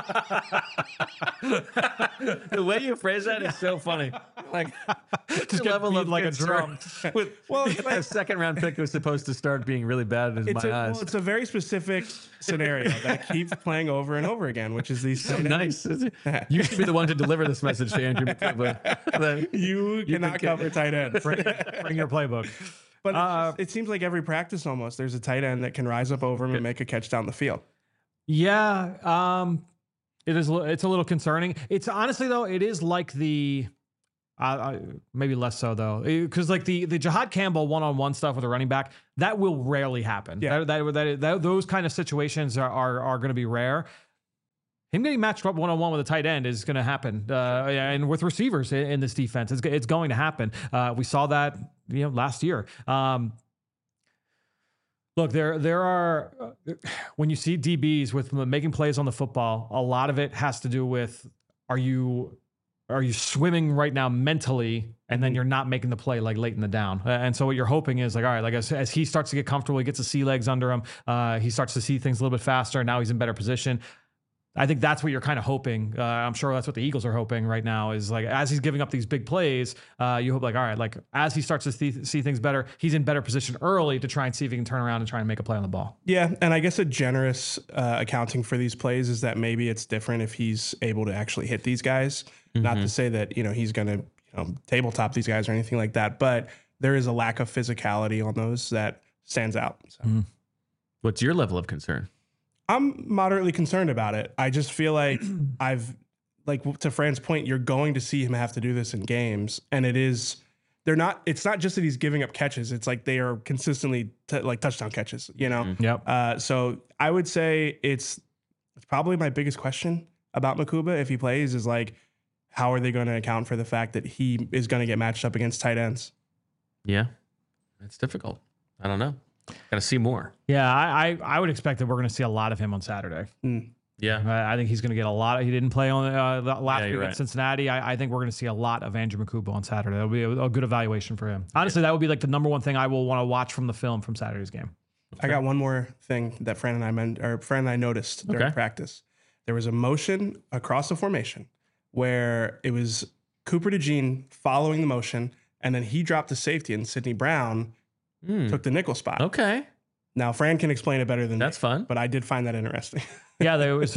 The way you phrase that is so funny. Like, just level of like a drum. A second round pick was supposed to start being really bad in my eyes. Well, it's a very specific scenario that keeps playing over and over again, which is these. So nice. You should be the one to deliver this message to Andrew Mukuba. You cannot cover tight end. Bring your playbook. But it seems like every practice almost there's a tight end that can rise up over him and make a catch down the field. Yeah, it's a little concerning. It's honestly though, it is like the maybe less so though, because like the Jahad Campbell one-on-one stuff with a running back, that will rarely happen. Yeah. Those kind of situations are going to be rare. Him getting matched up one-on-one with a tight end is going to happen, and with receivers in this defense, it's going to happen. We saw that last year. Look, there are when you see DBs with making plays on the football, a lot of it has to do with are you swimming right now mentally, and then you're not making the play like late in the down. And so what you're hoping is like, all right, like as he starts to get comfortable, he gets the sea legs under him, he starts to see things a little bit faster. Now he's in better position. I think that's what you're kind of hoping. I'm sure that's what the Eagles are hoping right now is like, as he's giving up these big plays, you hope like, all right, like as he starts to see things better, he's in better position early to try and see if he can turn around and try and make a play on the ball. Yeah. And I guess a generous accounting for these plays is that maybe it's different if he's able to actually hit these guys. Not to say that, he's going to tabletop these guys or anything like that, but there is a lack of physicality on those that stands out. So. What's your level of concern? I'm moderately concerned about it. I just feel like to Fran's point, you're going to see him have to do this in games. And it's not just that he's giving up catches. It's like they are consistently touchdown catches, Yep. So I would say it's probably my biggest question about Mukuba if he plays is like, how are they going to account for the fact that he is going to get matched up against tight ends? Yeah, it's difficult. I don't know. Got to see more. Yeah, I would expect that we're going to see a lot of him on Saturday. Yeah. I think he's going to get a lot. He didn't play on last week right. at Cincinnati. I think we're going to see a lot of Andrew Mukuba on Saturday. That'll be a good evaluation for him. Honestly, that would be like the number one thing I will want to watch from the film from Saturday's game. I got one more thing that Fran and I noticed during practice. There was a motion across the formation where it was Cooper DeJean following the motion, and then he dropped the safety, and Sidney Brown took the nickel spot. Okay. Now Fran can explain it better than that's me, fun. But I did find that interesting. Yeah, they were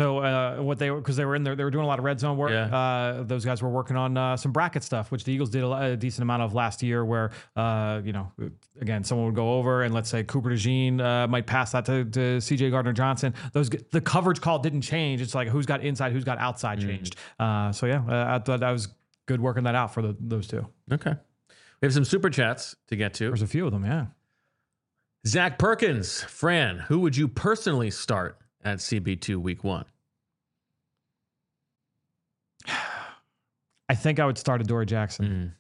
in there, they were doing a lot of red zone work. Yeah. Those guys were working on some bracket stuff, which the Eagles did a decent amount of last year. Where again, someone would go over and let's say Cooper DeJean might pass that to CJ Gardner-Johnson. The coverage call didn't change. It's like who's got inside, who's got outside changed. I thought that was good working that out for those two. Okay. We have some super chats to get to. There's a few of them, yeah. Zach Perkins, Fran, who would you personally start at CB2 week 1? I think I would start Adoree Jackson.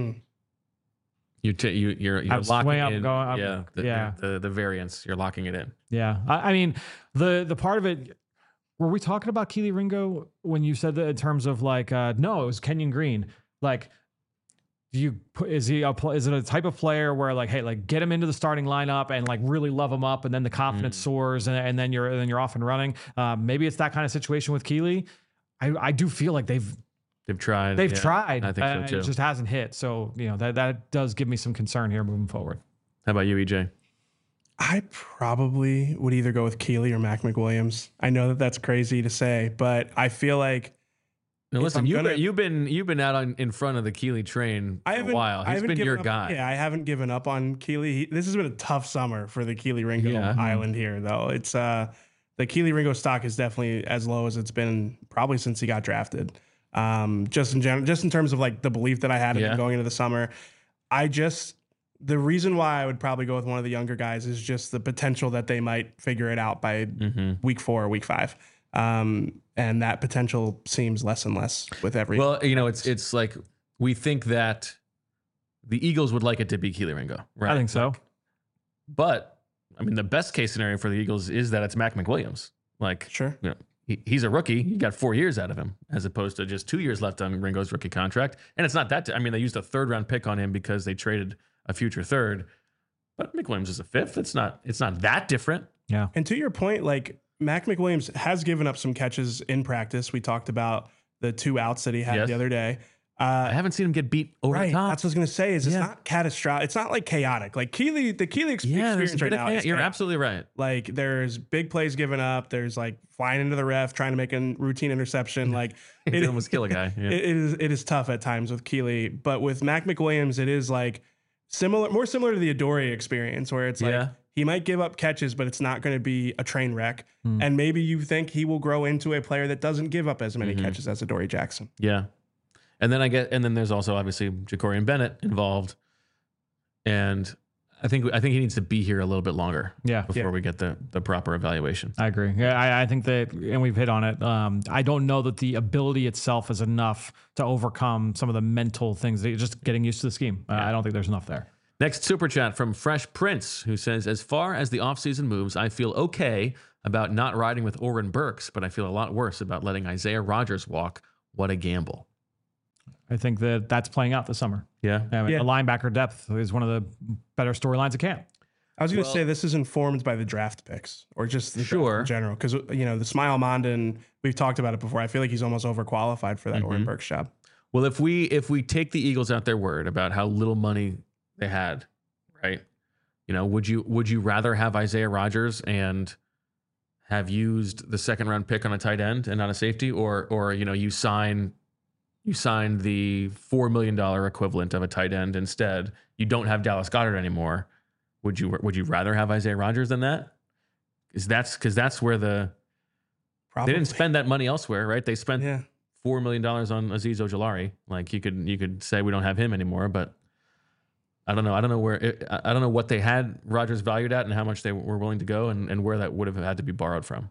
You're I'm locking swing up, in. going up, The variance. You're locking it in. Yeah. I mean, the part of it, were we talking about Kelee Ringo when you said that in terms of like, no, it was Kenyon Green. Like, is it a type of player where like, hey, like get him into the starting lineup and like really love him up, and then the confidence soars, and then you're off and running. Maybe it's that kind of situation with Kelee. I do feel like they've tried. They've tried. I think so too. It just hasn't hit. So that does give me some concern here moving forward. How about you, EJ? I probably would either go with Kelee or Mac McWilliams. I know that that's crazy to say, but I feel like. Now listen, you've been out in front of the Kelee train for a while. He's been your guy. Yeah, I haven't given up on Kelee. This has been a tough summer for the Kelee Ringo island here, though. It's the Kelee Ringo stock is definitely as low as it's been probably since he got drafted. Just in general, just in terms of like the belief that I had in him going into the summer, the reason why I would probably go with one of the younger guys is just the potential that they might figure it out by week 4 or week 5. And that potential seems less and less with every. Well, it's like we think that the Eagles would like it to be Kelee Ringo, right? I think so. But I mean, the best case scenario for the Eagles is that it's Mac McWilliams. Like, sure, he's a rookie. You got 4 years out of him, as opposed to just 2 years left on Ringo's rookie contract. And it's not that. I mean, they used a 3rd round pick on him because they traded a future 3rd. But McWilliams is a 5th. It's not that different. Yeah. And to your point, like Mac McWilliams has given up some catches in practice. We talked about the 2 outs that he had the other day. I haven't seen him get beat over the top. That's what I was going to say. It's not catastrophic. It's not like chaotic. Like the Kelee experience right now. You're absolutely right. Like there's big plays given up. There's like flying into the ref, trying to make a routine interception. Like it almost kill a guy. Yeah. It is tough at times with Kelee, but with Mac McWilliams, it is like more similar to the Adoree experience, where it's like he might give up catches, but it's not going to be a train wreck. And maybe you think he will grow into a player that doesn't give up as many catches as Adoree Jackson. Yeah. And then there's also obviously Jacorian Bennett involved, and I think he needs to be here a little bit longer, before we get the proper evaluation. I agree. Yeah, I think that, and we've hit on it. I don't know that the ability itself is enough to overcome some of the mental things that you're just getting used to the scheme. I don't think there's enough there. Next super chat from Fresh Prince, who says, as far as the offseason moves, I feel okay about not riding with Oren Burks, but I feel a lot worse about letting Isaiah Rodgers walk. What a gamble. I think that's playing out this summer. Yeah. The linebacker depth is one of the better storylines at camp. I was going to say this is informed by the draft picks or just the draft in general. Because, the Smile Mondon, we've talked about it before. I feel like he's almost overqualified for that Oren Burks job. Well, if we take the Eagles at their word about how little money they had, right? Would you rather have Isaiah Rodgers and have used the 2nd round pick on a tight end and not a safety, or you signed the $4 million equivalent of a tight end instead? You don't have Dallas Goedert anymore. Would you rather have Isaiah Rodgers than that? Because that's where they didn't spend that money elsewhere, right? They spent $4 million on Azeez Ojulari. Like you could say we don't have him anymore, but I don't know. I don't know what they had Rodgers valued at and how much they were willing to go and where that would have had to be borrowed from.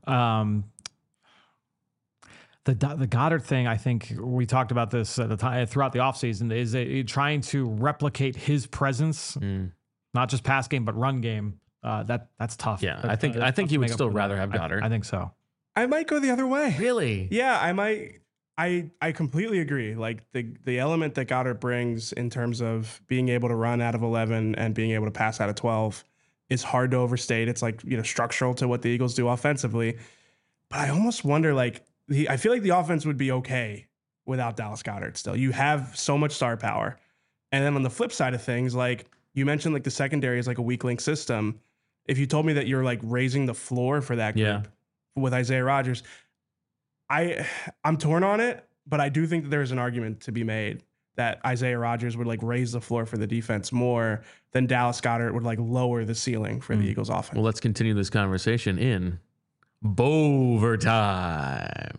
The Goddard thing, I think we talked about this at the time throughout the offseason, is trying to replicate his presence, not just pass game, but run game. That's tough. Yeah, I think you would still rather have Goddard. I think so. I might go the other way. Really? Yeah, I might. I completely agree. Like the element that Goddard brings in terms of being able to run out of 11 and being able to pass out of 12 is hard to overstate. It's like, structural to what the Eagles do offensively. But I almost wonder, like, I feel like the offense would be okay without Dallas Goedert still. You have so much star power. And then on the flip side of things, like you mentioned, like the secondary is like a weak link system. If you told me that you're like raising the floor for that group with Isaiah Rodgers, I'm torn on it, but I do think that there's an argument to be made that Isaiah Rodgers would like raise the floor for the defense more than Dallas Goedert would like lower the ceiling for the Eagles offense. Well, let's continue this conversation in Bovertime.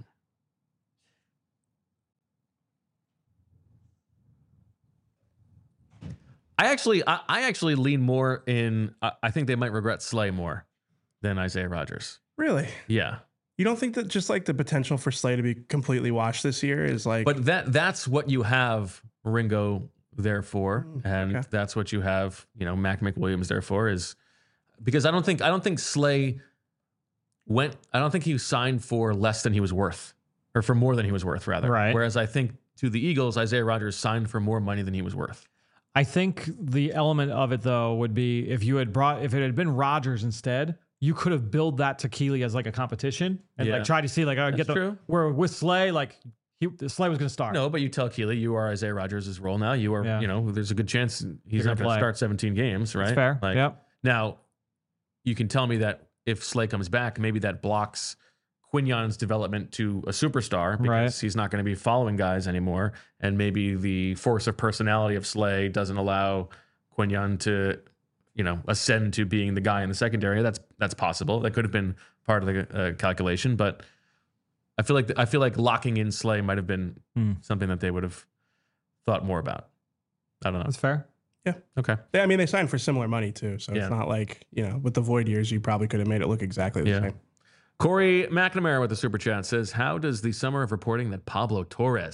I actually lean more in. I think they might regret Slay more than Isaiah Rodgers. Really? Yeah. You don't think that just like the potential for Slay to be completely washed this year is like, But that's what you have Ringo there for, and okay. that's what you have, Mac McWilliams there for, is because I don't think Slay I don't think he signed for less than he was worth, or for more than he was worth, rather. Right. Whereas I think to the Eagles, Isaiah Rodgers signed for more money than he was worth. I think the element of it though would be if it had been Rodgers instead, you could have billed that to Keely as like a competition and like try to see like That's true. where with Slay like Slay was going to start. No, but you tell Keely you are Isaiah Rodgers' role now. You are, there's a good chance he's not going to start 17 games, right? That's fair. Like, yep. Now, you can tell me that if Slay comes back, maybe that blocks Quignon's development to a superstar because he's not going to be following guys anymore. And maybe the force of personality of Slay doesn't allow Quignon to, ascend to being the guy in the secondary. That's possible. That could have been part of the calculation, but I feel like locking in Slay might have been something that they would have thought more about. I don't know. That's fair. Yeah. Okay. I mean, they signed for similar money too. So it's not like, with the void years, you probably could have made it look exactly the same. Corey McNamara with the super chat says, how does the summer of reporting that Pablo Torre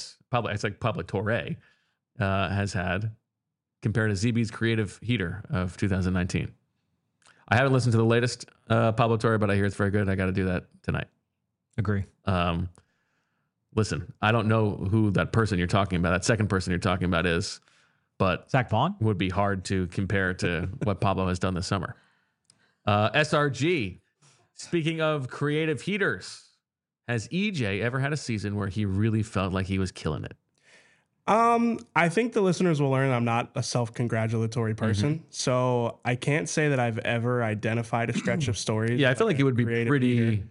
has had compared to ZB's creative heater of 2019? I haven't listened to the latest Pablo Torre, but I hear it's very good. I got to do that tonight. Agree. Listen, I don't know who that person you're talking about, that second person you're talking about is, but Zach Vaughn would be hard to compare to what Pablo has done this summer. SRG, speaking of creative heaters, has EJ ever had a season where he really felt like he was killing it? I think the listeners will learn I'm not a self-congratulatory person, so I can't say that I've ever identified a stretch of stories. Yeah, I feel like it would be pretty... heater.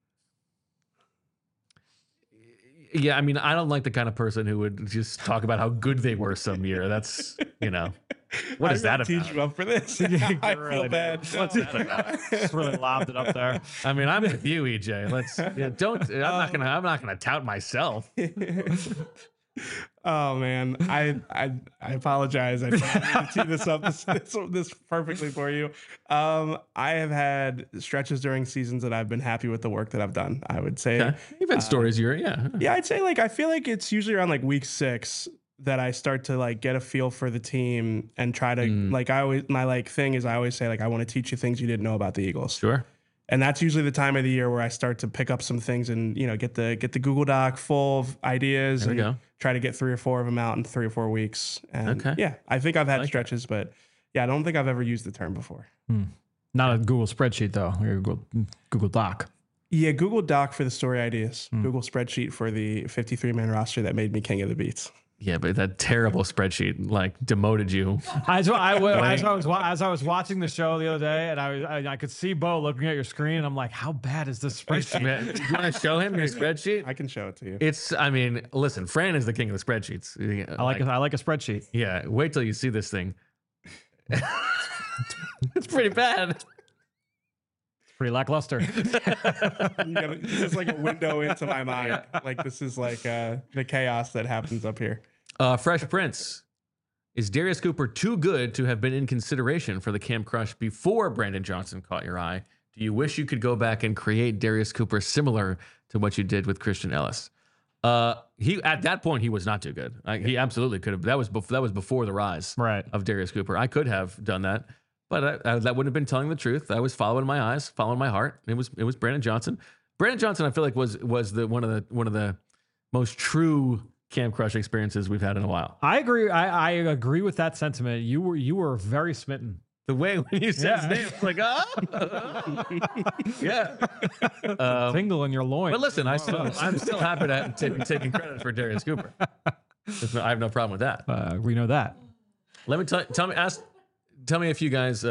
Yeah, I mean, I don't like the kind of person who would just talk about how good they were some year. That's, what is that about? Teach you up for this. I feel bad. What's that about? just really lobbed it up there. I mean, I'm with you, EJ. I'm not gonna tout myself. Oh man, I apologize. I tried to tee this up this perfectly for you. I have had stretches during seasons that I've been happy with the work that I've done. I would say you've had stories. Yeah, I'd say I feel like it's usually around like week 6 that I start to get a feel for the team and try to my thing is I always say I want to teach you things you didn't know about the Eagles. Sure. And that's usually the time of the year where I start to pick up some things and, get the Google Doc full of ideas and try to get 3 or 4 of them out in 3 or 4 weeks. And I think I've had stretches, but I don't think I've ever used the term before. Not a Google spreadsheet though, or Google Doc. Yeah, Google Doc for the story ideas. Google spreadsheet for the 53-man roster that made me king of the beats. Yeah, but that terrible spreadsheet demoted you. As I was watching the show the other day, and I could see Bo looking at your screen, and I'm like, how bad is this spreadsheet? Do you want to show him your spreadsheet? I can show it to you. Listen, Fran is the king of the spreadsheets. I like a spreadsheet. Yeah, wait till you see this thing. It's pretty bad. Pretty lackluster. This is like a window into my mind. This is the chaos that happens up here. Fresh Prince. Is Darius Cooper too good to have been in consideration for the Camp Crush before Brandon Johnson caught your eye? Do you wish you could go back and create Darius Cooper similar to what you did with Christian Ellis? He at that point he was not too good. He absolutely could have. That was before the rise of Darius Cooper. I could have done that. But that wouldn't have been telling the truth. I was following my eyes, following my heart. It was Brandon Johnson. Brandon Johnson, I feel like was one of the most true Camp Crush experiences we've had in a while. I agree. I agree with that sentiment. You were very smitten. The way when you said his name, it's like, yeah, tingle in your loins. But listen, I'm still happy to be taking credit for Darius Cooper. I have no problem with that. We know that. Let me tell me if you guys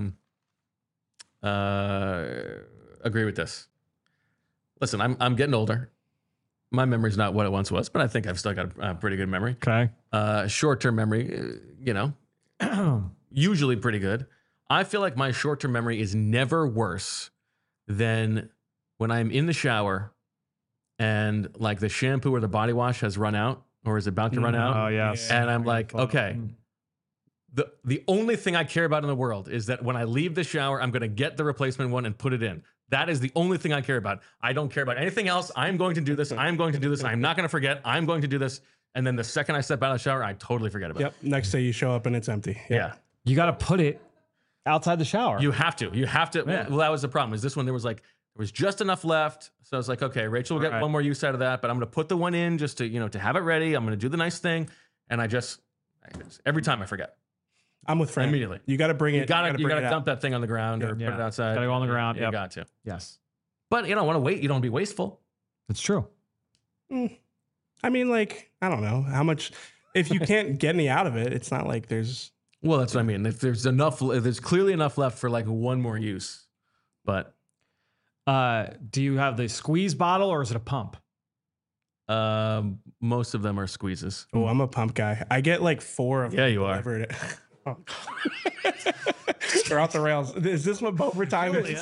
agree with this. Listen, I'm getting older. My memory's not what it once was, but I think I've still got a pretty good memory. Okay. Short-term memory, usually pretty good. I feel like my short-term memory is never worse than when I'm in the shower and the shampoo or the body wash has run out or is about to run out. Oh, yes. And I'm like, okay. The only thing I care about in the world is that when I leave the shower, I'm going to get the replacement one and put it in. That is the only thing I care about. I don't care about anything else. I'm going to do this. I'm going to do this. I'm not going to forget. I'm going to do this. And then the second I step out of the shower, I totally forget about it. Next day you show up and it's empty. Yeah. You got to put it outside the shower. You have to. Yeah. Well, that was the problem. Is this one there was just enough left. So I was like, okay, Rachel will get one more use out of that, but I'm going to put the one in just to, to have it ready. I'm going to do the nice thing. And every time I forget. I'm with Fran. Immediately. You got to bring it. You got to dump that thing on the ground or put it outside. Got to go on the ground. You got to. Yes. But you don't want to wait. You don't want to be wasteful. It's true. I mean, like, I don't know how much, if you can't get any out of it, it's not like there's. Well, that's what I mean. If there's clearly enough left for like one more use. But do you have the squeeze bottle or is it a pump? most of them are squeezes. Oh, I'm a pump guy. I get like 4 of them. Yeah, you are. Delivered. Oh. They're off the rails. Is this what overtime is?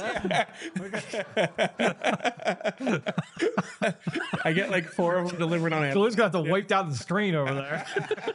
I get like 4 of them delivered on Amazon. Julie's got to wipe down the screen over there.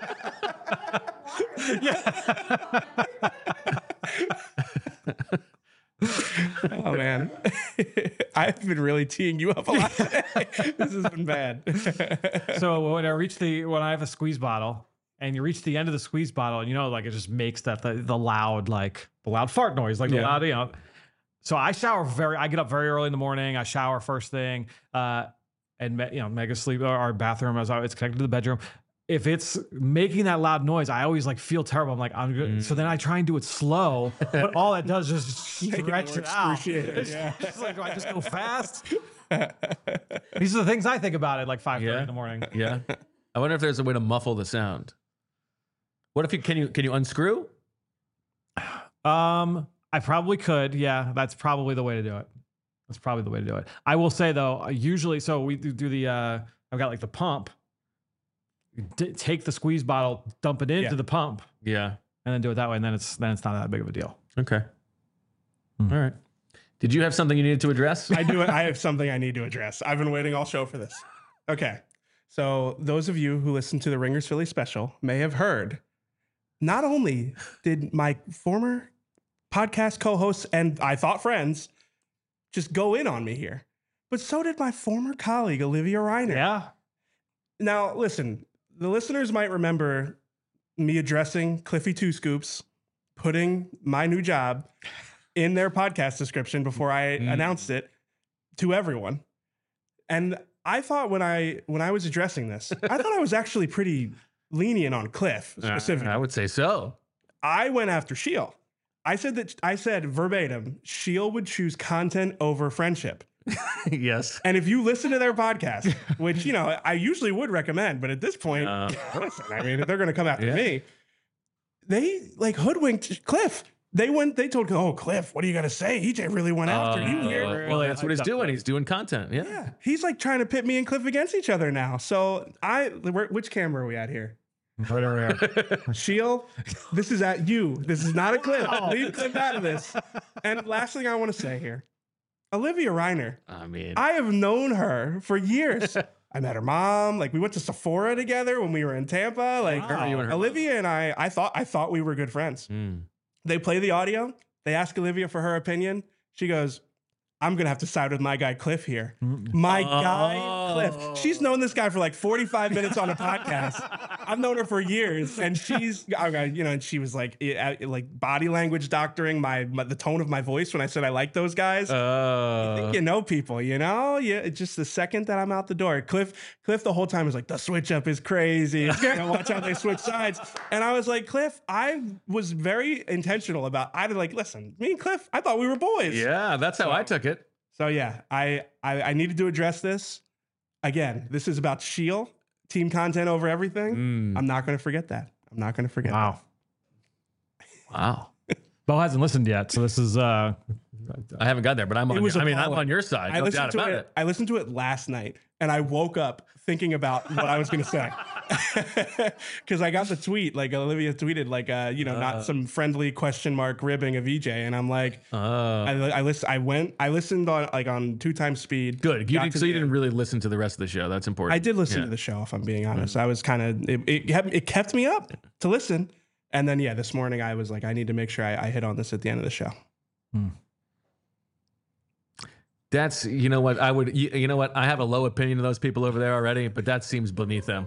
Oh man, I've been really teeing you up a lot today. This has been bad. So when I have a squeeze bottle, and you reach the end of the squeeze bottle, and like it just makes that the loud fart noise, like the loud, So I get up very early in the morning. I shower first thing, and Mega's sleep. Our bathroom it's connected to the bedroom. If it's making that loud noise, I always feel terrible. I'm like, I'm good. So then I try and do it slow, but all it does is just stretch it out. Yeah. It's like, do I just go fast? These are the things I think about at 5:30 in the morning. Yeah. I wonder if there's a way to muffle the sound. What if can you unscrew? I probably could. Yeah, that's probably the way to do it. I will say though, usually, so we do the. I've got the pump. Take the squeeze bottle, dump it into the pump, yeah, and then do it that way, and then it's not that big of a deal. Okay. All right. Did you have something you needed to address? I do. I have something I need to address. I've been waiting all show for this. Okay. So those of you who listen to the Ringers Philly special may have heard, not only did my former podcast co-hosts and I thought friends just go in on me here, but so did my former colleague, Olivia Reiner. Yeah. Now, listen, the listeners might remember me addressing Cliffy Two Scoops, putting my new job in their podcast description before I announced it to everyone. And I thought when I was addressing this, I thought I was actually pretty lenient on Cliff specifically. I would say so. I went after Sheil. I said verbatim, Sheil would choose content over friendship. Yes. And if you listen to their podcast, which, I usually would recommend, but at this point, listen, I mean, if they're going to come after me, they hoodwinked Cliff. They told, Cliff, what are you going to say? EJ really went after you here. Well, that's what he's doing. He's doing content. Yeah. He's trying to pit me and Cliff against each other now. So which camera are we at here? Right over here. Sheil, this is at you. This is not a Cliff. Leave Cliff out of this. And last thing I want to say here. Olivia Reiner. I have known her for years. I met her mom. We went to Sephora together when we were in Tampa. Olivia and I thought we were good friends. They play the audio. They ask Olivia for her opinion. She goes, I'm going to have to side with my guy Cliff here. My guy Cliff. She's known this guy for 45 minutes on a podcast. I've known her for years. And she's, and she was body language doctoring the tone of my voice when I said I like those guys. You think you know people, Yeah, it's just the second that I'm out the door. Cliff the whole time was the switch up is crazy. Watch how they switch sides. And I was like, Cliff, I was very intentional about, listen, me and Cliff, I thought we were boys. Yeah, that's how I took it. So yeah, I needed to address this. Again, this is about Sheil, team content over everything. I'm not going to forget that. Wow. Bo hasn't listened yet, so this is. I haven't got there, but I'm on your side. No doubt about it. I listened to it last night, and I woke up thinking about what I was going to say. Because I got the tweet, Olivia tweeted, not some friendly question mark ribbing of EJ, and I'm like, I listened on 2 times speed. Good. You didn't really listen to the rest of the show. That's important. I did listen to the show, if I'm being honest. I was kind of it kept me up to listen, and then this morning I was I need to make sure I hit on this at the end of the show. That's, you know what, you know what, I have a low opinion of those people over there already, but that seems beneath them.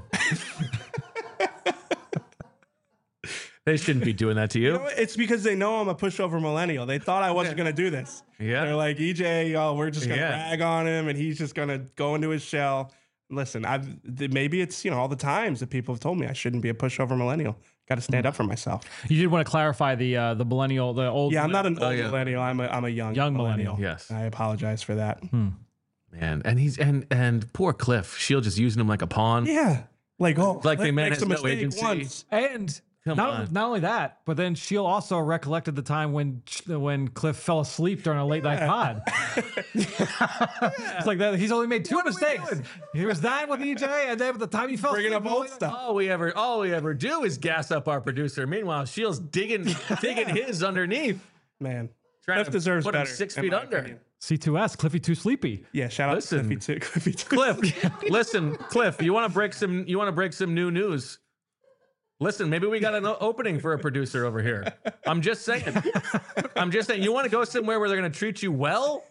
They shouldn't be doing that to you. You know what? It's because they know I'm a pushover millennial. They thought I wasn't going to do this. Yeah. They're like, EJ, oh, we're just going to rag on him and he's just going to go into his shell. Listen, maybe it's, all the times that people have told me I shouldn't be a pushover millennial. Got to stand up for myself. You did want to clarify the millennial, the old. Yeah, I'm not an old millennial. I'm a young millennial. Yes. I apologize for that. Man, and he's and poor Cliff. Shield just using him like a pawn. Yeah. Like the man makes has a no mistake agency. once. And not only that, but then Shield also recollected the time when Cliff fell asleep during a late night pod. It's like that. He's only made two mistakes. He was dying with EJ, and then by the time he fell Bringing asleep, up old stuff. All we ever do is gas up our producer. Meanwhile, Shield's digging his underneath. Man, Trying Cliff deserves put him better. 6 in feet my under. opinion. C2S, Cliffy too sleepy. Yeah, shout out Listen, to Cliffy too. Cliff, listen, Cliff, you want to break some new news? Listen, maybe we got an opening for a producer over here. I'm just saying. You want to go somewhere where they're going to treat you well?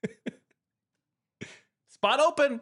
Spot open.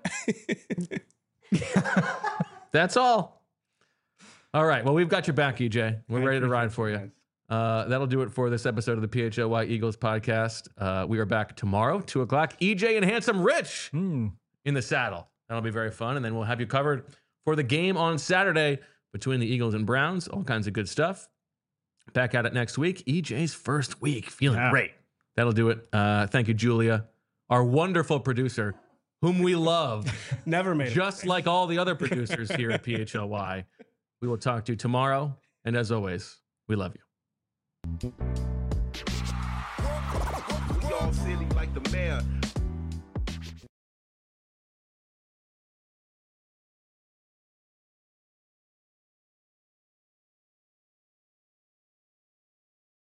That's all. All right. Well, we've got your back, EJ. We're ready to ride for you. That'll do it for this episode of the PHLY Eagles podcast. We are back tomorrow, 2:00. EJ and Handsome Rich in the saddle. That'll be very fun. And then we'll have you covered for the game on Saturday between the Eagles and Browns. All kinds of good stuff. Back at it next week. EJ's first week. Feeling great. That'll do it. Thank you, Julia, our wonderful producer, whom we love. Never made just like all the other producers here at PHLY. We will talk to you tomorrow. And as always, we love you. We all silly like the mayor.